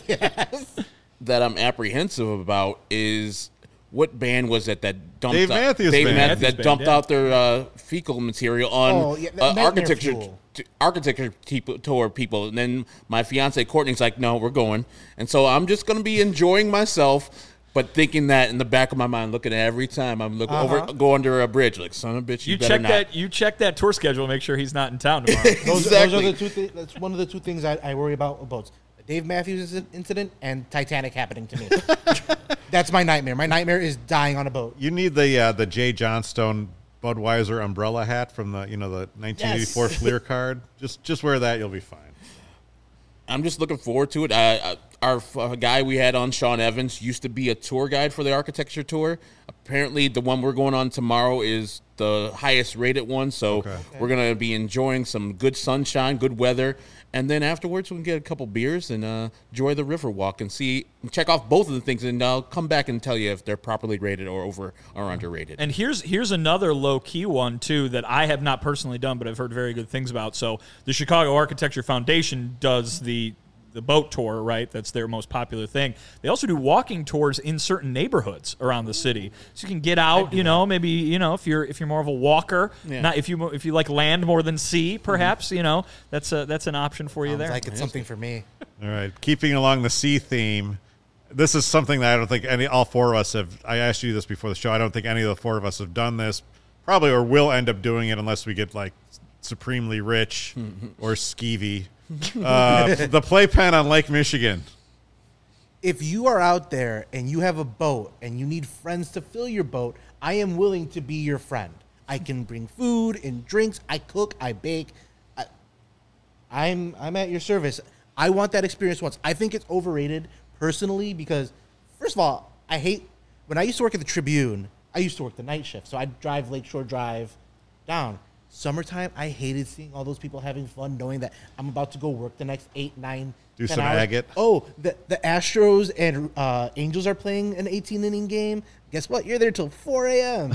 that I'm apprehensive about is what band was it that dumped Dave out, Matthews Dave Band. Matthews Matthews that dumped Band, yeah. out their uh, fecal material on Oh, yeah, that uh, Nightmare architecture Fuel. t- architecture people, tour people, and then my fiance Courtney's like, "No, we're going," and so I'm just going to be enjoying myself. But thinking that in the back of my mind, looking at every time I'm looking Uh-huh. over, go under a bridge, like son of a bitch, you, you better check not. that. You check that tour schedule. Make sure he's not in town tomorrow. those, Exactly. those are the two. Th- that's one of the two things I, I worry about with boats: the Dave Matthews inci- incident and Titanic happening to me. That's my nightmare. My nightmare is dying on a boat. You need the uh, the Jay Johnstone Budweiser umbrella hat from the you know the nineteen eighty-four Yes. Fleer card. Just just wear that, you'll be fine. I'm just looking forward to it. I, I, our uh, guy we had on, Sean Evans, used to be a tour guide for the architecture tour. Apparently, the one we're going on tomorrow is the highest rated one. So Okay. we're going to be enjoying some good sunshine, good weather. And then afterwards, we can get a couple beers and uh, enjoy the river walk and see, check off both of the things. And I'll come back and tell you if they're properly rated or over or underrated. And here's here's another low key one too that I have not personally done, but I've heard very good things about. So the Chicago Architecture Foundation does the the boat tour, right? That's their most popular thing. They also do walking tours in certain neighborhoods around the city, so you can get out. You know, maybe you know if you're if you're more of a walker, Yeah. not if you if you like land more than sea, perhaps. You know, that's a that's an option for you Sounds there. like it's something for me. All right, keeping along the sea theme. This is something that I don't think any all four of us have. I asked you this before the show. I don't think any of the four of us have done this, probably, or will end up doing it unless we get like supremely rich or skeevy. Uh, the playpen on Lake Michigan. If you are out there and you have a boat and you need friends to fill your boat, I am willing to be your friend. I can bring food and drinks. I cook. I bake. I, I'm I'm at your service. I want that experience once. I think it's overrated personally because, first of all, I hate when I used to work at the Tribune. I used to work the night shift, so I'd drive Lakeshore Drive down. Summertime, I hated seeing all those people having fun, knowing that I'm about to go work the next eight, nine, Do ten some hours. agate. Oh, the the Astros and uh, Angels are playing an eighteen inning game. Guess what? You're there till four a.m.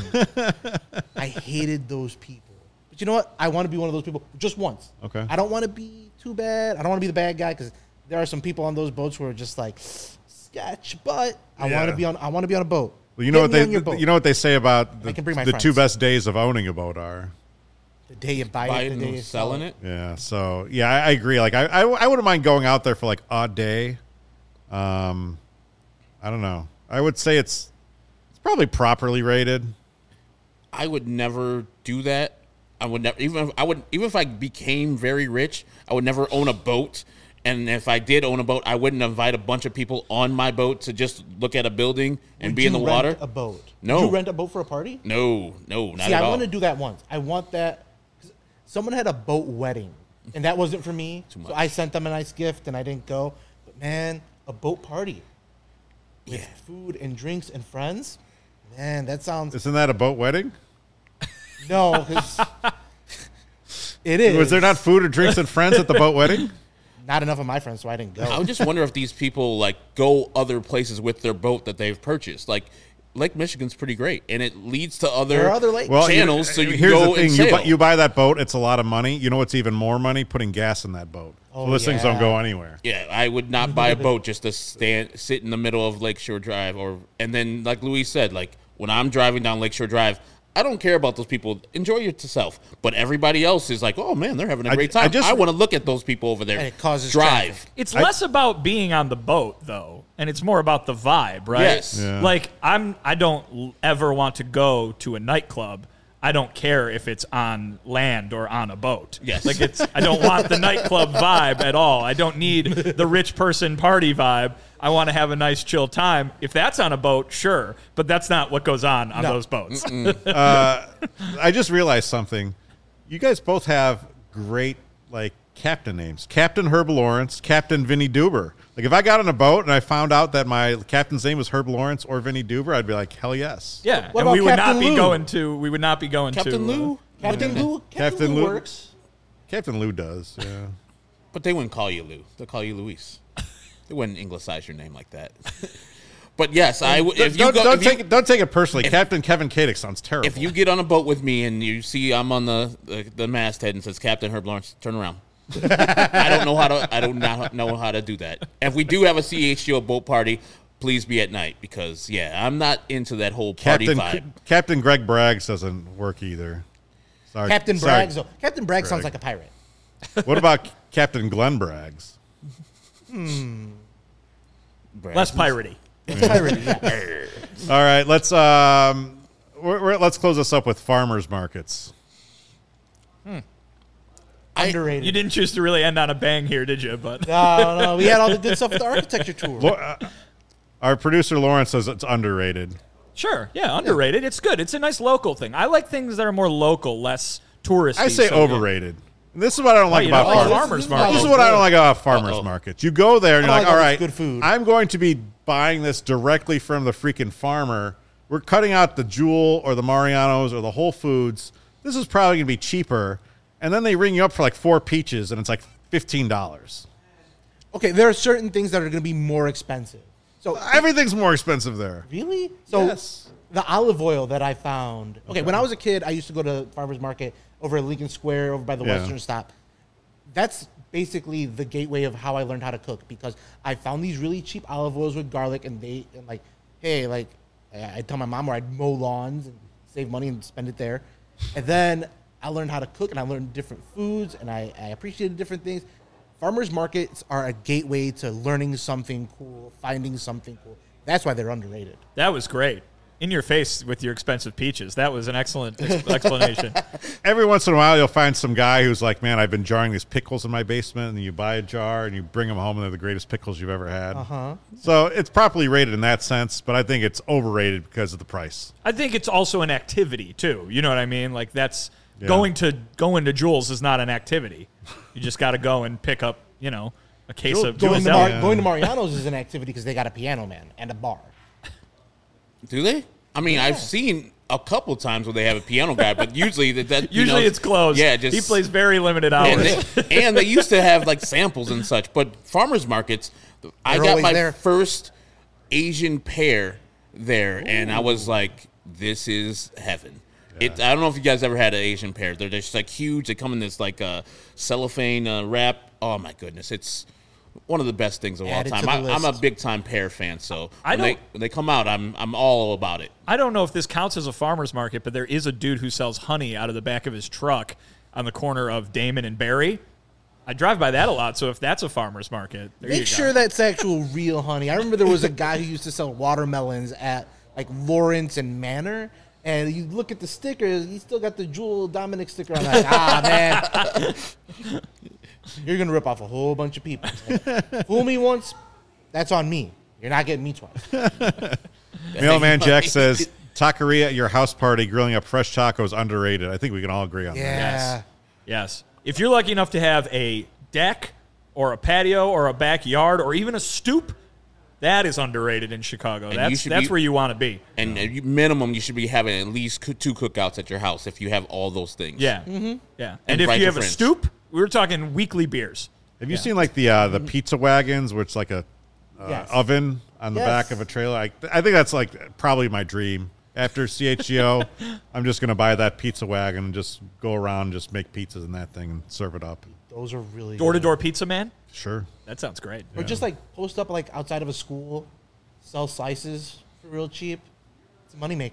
I hated those people. But you know what? I want to be one of those people just once. Okay. I don't want to be too bad. I don't want to be the bad guy because there are some people on those boats who are just like sketch. But I Yeah. want to be on. I want to be on a boat. Well, you know Get what me they on your boat. you know what they say about the, I can bring my the two friends. best days of owning a boat are. the day you buy, Buy it, it the and day you sell selling it. it. Yeah, so yeah, I, I agree. Like I, I, I wouldn't mind going out there for like a day. Um, I don't know. I would say it's it's probably properly rated. I would never do that. I would never even if I would even if I became very rich, I would never own a boat. And if I did own a boat, I wouldn't invite a bunch of people on my boat to just look at a building and Would be in the you rent water. A boat? No. Would you rent a boat for a party? No, no, not See, at I all. want to do that once. I want that. 'Cause someone had a boat wedding, and that wasn't for me. So much. I sent them a nice gift, and I didn't go. But man, a boat party with Yeah. food and drinks and friends. Man, that sounds Isn't that a boat wedding? no. 'Cause it is. Was there not food or drinks and friends at the boat wedding? not enough of my friends, so I didn't I go. would just wonder if these people like go other places with their boat that they've purchased. Like Lake Michigan's pretty great, and it leads to other, There are other lakes. Well, you- channels. so you can here's go the thing: and you sail. buy, you buy that boat, it's a lot of money. You know what's even more money? Putting gas in that boat. So Oh, those things don't yeah. go anywhere. Yeah, I would not buy a boat just to stand, sit in the middle of Lakeshore Drive, or and then like Luis said, like when I'm driving down Lakeshore Drive, I don't care about those people. Enjoy yourself. But everybody else is like, oh man, they're having a I- great I time. I, just- want to look at those people over there. And it causes drive. traffic. It's less about being on the boat though, and it's more about the vibe, right? Yes. Yeah. Like I'm I don't l- ever want to go to a nightclub. I don't care if it's on land or on a boat. Yes. Like it's I don't want the nightclub vibe at all. I don't need the rich person party vibe. I want to have a nice chill time. If that's on a boat, sure, but that's not what goes on on No. those boats. I just realized something. You guys both have great like captain names. Captain Herb Lawrence, Captain Vinny Duber. Like if I got on a boat and I found out that my captain's name was Herb Lawrence or Vinny Duber, I'd be like, hell yes. Yeah, What and about we would Captain not be Lou? going to we would not be going Captain to uh, Lou. Captain Lou, Captain, Captain Lou Lou. works. Captain Lou does, yeah. But they wouldn't call you Lou. They'll call you Luis. They wouldn't Englishise your name like that. But yes, I w- if you don't go, don't if you- take it, don't take it personally. Captain Kevin Kadick sounds terrible. if you get on a boat with me and you see I'm on the the, the masthead and says Captain Herb Lawrence, turn around. I don't know how to. I don't not know how to do that. If we do have a C H G O boat party, please be at night because yeah, I'm not into that whole party Captain vibe. Captain Greg Braggs doesn't work either. Sorry, Captain sorry. Braggs. though. Captain Bragg sounds Bragg. like a pirate. What about Captain Glenn Braggs? less piratey. Pirate, yeah. All right, let's um, we're, we're, let's close this up with farmers markets. Underrated. You didn't choose to really end on a bang here, did you? But No, no, we had all the good stuff with the architecture tour. Lo- uh, Our producer Lawrence says it's underrated. sure, yeah, underrated. It's good. It's a nice local thing. I like things that are more local, less touristy. I say so, yeah. overrated. And this is what I don't like you about don't like farmers. farmers this- markets. This is what I don't like about farmers Uh-oh. markets. You go there and I you're like like, all all this right, good food." I'm going to be buying this directly from the freaking farmer. We're cutting out the Jewel or the Mariano's or the Whole Foods. This is probably going to be cheaper. And then they ring you up for like four peaches and it's like fifteen dollars. Okay, there are certain things that are going to be more expensive. So Everything's more expensive there. really, so Yes. the olive oil that I found. Okay, when I was a kid, I used to go to farmers market over at Lincoln Square, over by the Yeah. Western Stop. That's basically the gateway of how I learned how to cook because I found these really cheap olive oils with garlic, and they and like, hey, like I I'd tell my mom where I'd mow lawns and save money and spend it there, and then I learned how to cook and I learned different foods and I, I appreciated different things. Farmers markets are a gateway to learning something cool, finding something cool. That's why they're underrated. That was great. In your face with your expensive peaches. That was an excellent ex- explanation. Every once in a while, you'll find some guy who's like, man, I've been jarring these pickles in my basement. And you buy a jar and you bring them home and they're the greatest pickles you've ever had. Uh-huh. So it's properly rated in that sense, but I think it's overrated because of the price. I think it's also an activity too. You know what I mean? Like that's Yeah. going to going to Jules is not an activity. You just got to go and pick up, you know, a case of Going Jules to, Mar- Deli. going to Mariano's is an activity because they got a piano man and a bar. Do they? I mean, I've seen a couple times where they have a piano guy, but usually that, that you Usually know, it's closed. Yeah, just he plays very limited and hours. they, and they used to have like samples and such. But farmers markets, I They're got always my there. first Asian pear there, and I was like, "This is heaven." It, I don't know if you guys ever had an Asian pear. They're just like huge. They come in this like uh, cellophane uh, wrap. Oh my goodness, it's one of the best things of all Add it to time. the I, I'm a list. big time pear fan, so I when they, don't- when they come out, I'm I'm all about it. I don't know if this counts as a farmer's market, but there is a dude who sells honey out of the back of his truck on the corner of Damon and Barry. I drive by that a lot, so if that's a farmer's market, there you Make go. sure that's actual real honey. I remember there was a guy who used to sell watermelons at like Lawrence and Manor. And you look at the stickers, he still got the Jewel Dominic sticker on. Like, ah, man. You're going to rip off a whole bunch of people. Fool me once, that's on me. You're not getting me twice. Mailman Jack says, taqueria at your house party, grilling up fresh tacos, underrated. I think we can all agree on that. Yeah. Yes. If you're lucky enough to have a deck or a patio or a backyard or even a stoop, that is underrated in Chicago. you That's should that's be- where you want to be. And at minimum, you should be having at least coo- two cookouts at your house if you have all those things. Yeah. Mm-hmm. Yeah. And And, if invite you your have a friends. stoop, we were talking weekly beers. Have you seen like the uh, the pizza wagons where it's like a uh, Yes. oven on the Yes. back of a trailer? I, I think that's like probably my dream. After C H G O, I'm just going to buy that pizza wagon and just go around and just make pizzas in that thing and serve it up. Those are really Door to good. door pizza man? Sure. That sounds great. Or just like post up like outside of a school, sell slices for real cheap. It's a moneymaker.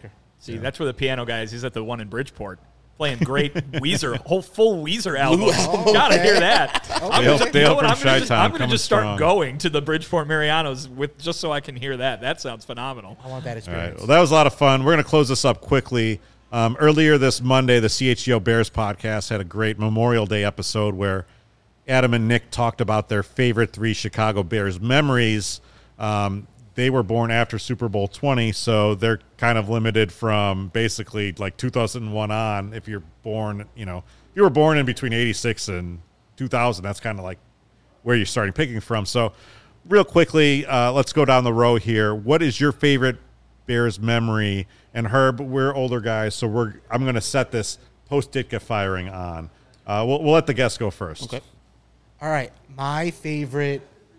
See, yeah. that's where the piano guy is. He's at the one in Bridgeport. Playing great Weezer, whole full Weezer album. Oh, Gotta okay. hear that. Okay. I'm Dale, gonna, Dale you know what, from I'm gonna just, Chi-Town I'm gonna coming just start strong. going to the Bridgeport Marianos with just so I can hear that. That sounds phenomenal. I want that All experience. right. Well, that was a lot of fun. We're going to close this up quickly. Um, earlier this Monday, the C H G O Bears podcast had a great Memorial Day episode where Adam and Nick talked about their favorite three Chicago Bears memories. Um, they were born after Super Bowl twenty, so they're kind of limited from basically like two thousand one on. If you're born, you know, if you were born in between eighty-six and two thousand, that's kind of like where you're starting picking from. So real quickly, uh, let's go down the row here. What is your favorite Bears memory? And Herb, we're older guys, so we're I'm going to set this post-Ditka firing on. Uh, we'll, we'll let the guests go first. Okay. All right. My favorite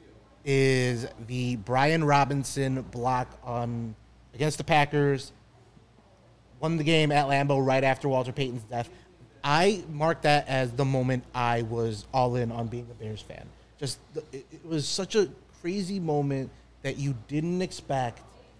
is the Brian Robinson block on against the Packers. Won the game at Lambeau right after Walter Payton's death. I marked that as the moment I was all in on being a Bears fan. Just the, it, it was such a crazy moment that you didn't expect,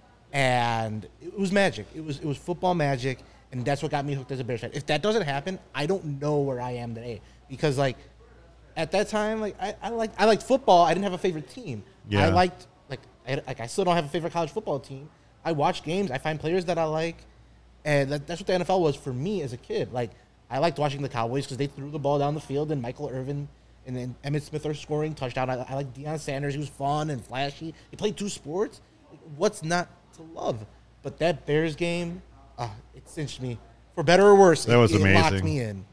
and it was magic. It was it was football magic, and that's what got me hooked as a Bears fan. If that doesn't happen, I don't know where I am today, because like at that time, like I, I liked I liked football. I didn't have a favorite team. Yeah. I liked like I, like I still don't have a favorite college football team. I watch games. I find players that I like, and that, that's what the N F L was for me as a kid. Like I liked watching the Cowboys because they threw the ball down the field, and Michael Irvin and then Emmitt Smith are scoring touchdown. I, I like Deion Sanders. He was fun and flashy. He played two sports. What's not to love? But that Bears game, uh, it cinched me for better or worse. That was it, amazing. It locked me in.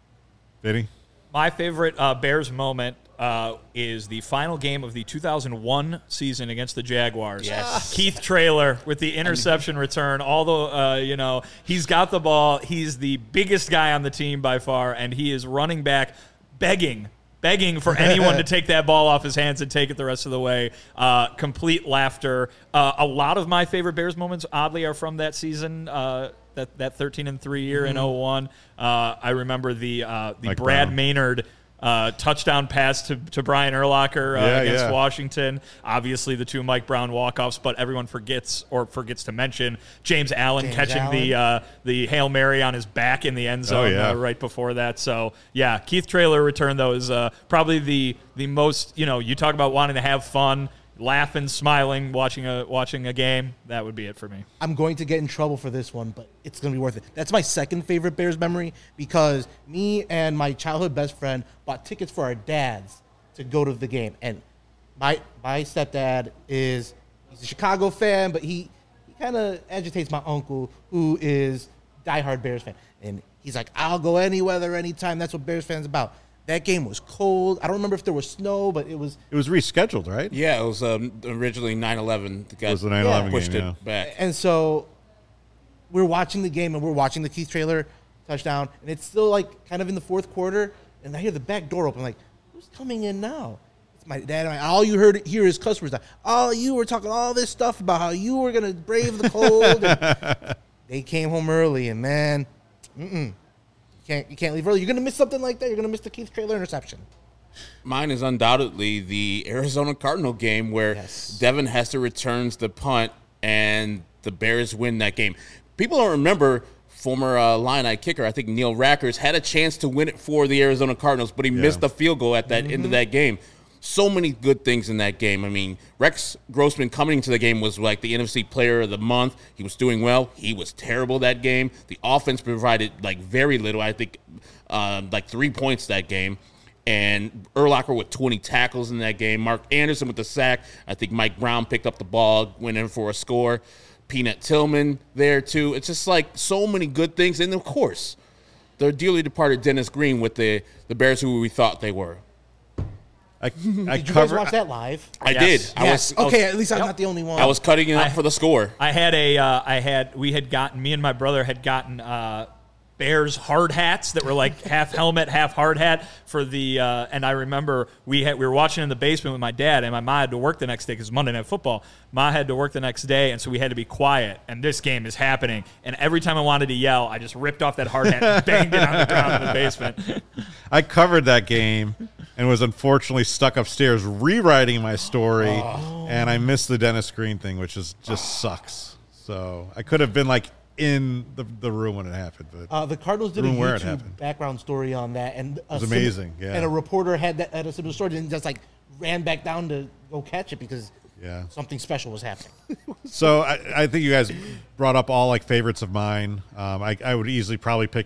Vinny? My favorite uh, Bears moment uh, is the final game of the two thousand one season against the Jaguars. Yes. Keith Traylor with the interception return. Although, uh, you know, he's got the ball. He's the biggest guy on the team by far, and he is running back begging begging for anyone to take that ball off his hands and take it the rest of the way. Uh, complete laughter. Uh, a lot of my favorite Bears moments, oddly, are from that season, uh, that that thirteen and three year mm-hmm. in oh one. Uh, I remember the uh, the Mike Brad Brown. Maynard uh, touchdown pass to, to Brian Urlacher uh, Yeah, against yeah. Washington. Obviously, the two Mike Brown walk-offs, but everyone forgets or forgets to mention James Allen James catching Allen. the uh, the Hail Mary on his back in the end zone Oh, yeah. uh, right before that. So, yeah, Keith Traylor return, though, is uh, probably the the most, you know, you talk about wanting to have fun, laughing, smiling, watching a watching a game. That would be it for me. I'm going to get in trouble for this one, but it's going to be worth it. That's my second favorite Bears memory because me and my childhood best friend bought tickets for our dads to go to the game. And my my stepdad is he's a Chicago fan, but he, he kind of agitates my uncle, who is diehard Bears fan. And he's like, I'll go any weather, anytime. That's what Bears fans about. That game was cold. I don't remember if there was snow, but it was It was rescheduled, right? Yeah, it was um, originally nine eleven. The guy It was the nine eleven pushed game, it yeah. back. And so we're watching the game, and we're watching the Keith Traylor touchdown, and it's still like kind of in the fourth quarter, and I hear the back door open. I'm like, who's coming in now? It's my dad. And I, all you heard here is customers. Like, oh, you were talking all this stuff about how you were gonna brave the cold. And they came home early, and man, mm-mm, you can't you can't leave early. You're gonna miss something like that. You're gonna miss the Keith Traylor interception. Mine is undoubtedly the Arizona Cardinal game where Yes. Devin Hester returns the punt and the Bears win that game. People don't remember former uh, Illini kicker, I think Neil Rackers, had a chance to win it for the Arizona Cardinals, but he Yeah. missed the field goal at that Mm-hmm. end of that game. So many good things in that game. I mean, Rex Grossman coming to the game was like the N F C Player of the Month. He was doing well. He was terrible that game. The offense provided like very little. I think uh, like three points that game. And Urlacher with twenty tackles in that game. Mark Anderson with the sack. I think Mike Brown picked up the ball, went in for a score. Peanut Tillman there too. It's just like so many good things. And of course, the dearly departed Dennis Green with the, the Bears who we thought they were. I, I Did you guys covered. watch that live? I Yes. did. I yes. was, I was- okay, at least I'm not the only one. I was cutting it up I- for the score. I had a, uh, I had, we had gotten, me and my brother had gotten uh, Bears hard hats that were like half helmet, half hard hat for the, uh, and I remember we had, we were watching in the basement with my dad, and my mom had to work the next day because it was Monday Night Football. Ma had to work the next day, and so we had to be quiet, and this game is happening. And every time I wanted to yell, I just ripped off that hard hat and banged it on the ground in the basement. I covered that game and was unfortunately stuck upstairs rewriting my story, and I missed the Dennis Green thing, which is just sucks. So I could have been like in the, the room when it happened. But Uh, the Cardinals did a Room where it YouTube happened. background story on that, and it was amazing, yeah. And a reporter had that had a similar story, and just like ran back down to go catch it because Yeah. something special was happening. So I, I think you guys brought up all like favorites of mine. Um, I, I would easily probably pick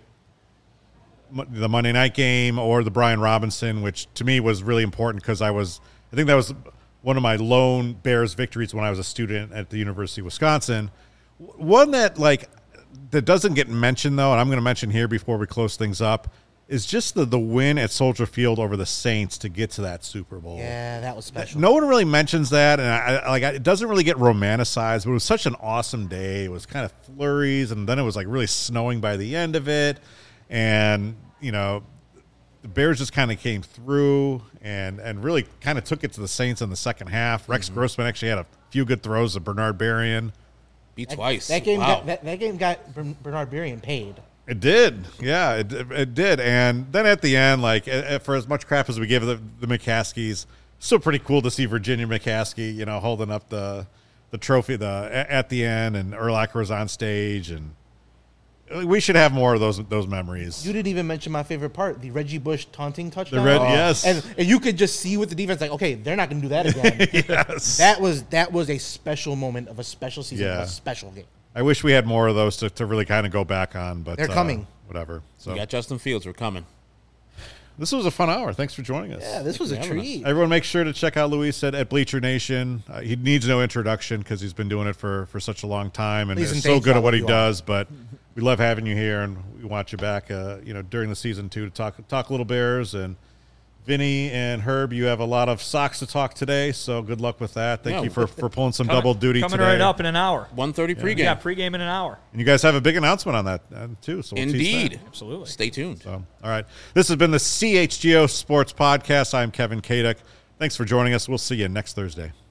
Mo- the Monday night game or the Brian Robinson, which to me was really important because I was, I think that was one of my lone Bears victories when I was a student at the University of Wisconsin. W- One that like that doesn't get mentioned though, and I'm going to mention here before we close things up, is just the the win at Soldier Field over the Saints to get to that Super Bowl. Yeah, that was special. No one really mentions that, and I, I like I, it doesn't really get romanticized. But it was such an awesome day. It was kind of flurries, and then it was like really snowing by the end of it, and you know, the Bears just kind of came through and and really kind of took it to the Saints in the second half. Rex Mm-hmm. Grossman actually had a few good throws to Bernard Berrien. Beat That- twice. That game Wow. got that, that game got Bern- Bernard Berrien paid. It did, yeah, it, it did. And then at the end, like eh, eh, for as much crap as we give the, the McCaskies, still pretty cool to see Virginia McCaskey, you know, holding up the the trophy the at the end, and Urlacher was on stage, and we should have more of those those memories. You didn't even mention my favorite part, the Reggie Bush taunting touchdown. Red- yes. and, and you could just see with the defense, like, okay, they're not going to do that again. Yes, That was that was a special moment of a special season, Yeah. of a special game. I wish we had more of those to, to really kind of go back on, but They're uh, coming. Whatever. So We got Justin Fields. We're coming. this was a fun hour. Thanks for joining us. Yeah, this was a for having us. treat. Everyone, make sure to check out Luis at, at Bleacher Nation. Uh, he needs no introduction because he's been doing it for, for such a long time and Please is and so thank good you at what all he you does. But we love having you here, and we want you back. Uh, you know, during the season too to talk talk little Bears. And Vinny and Herb, you have a lot of Sox to talk today, so good luck with that. Thank Yeah. you for, for pulling some Coming- double duty coming today. right up in an hour. one thirty pregame. Yeah, pregame in an hour. And you guys have a big announcement on that uh, too. So we'll tease Indeed. that. Absolutely. Stay tuned. So, all right. This has been the C H G O Sports Podcast. I'm Kevin Kaduk. Thanks for joining us. We'll see you next Thursday.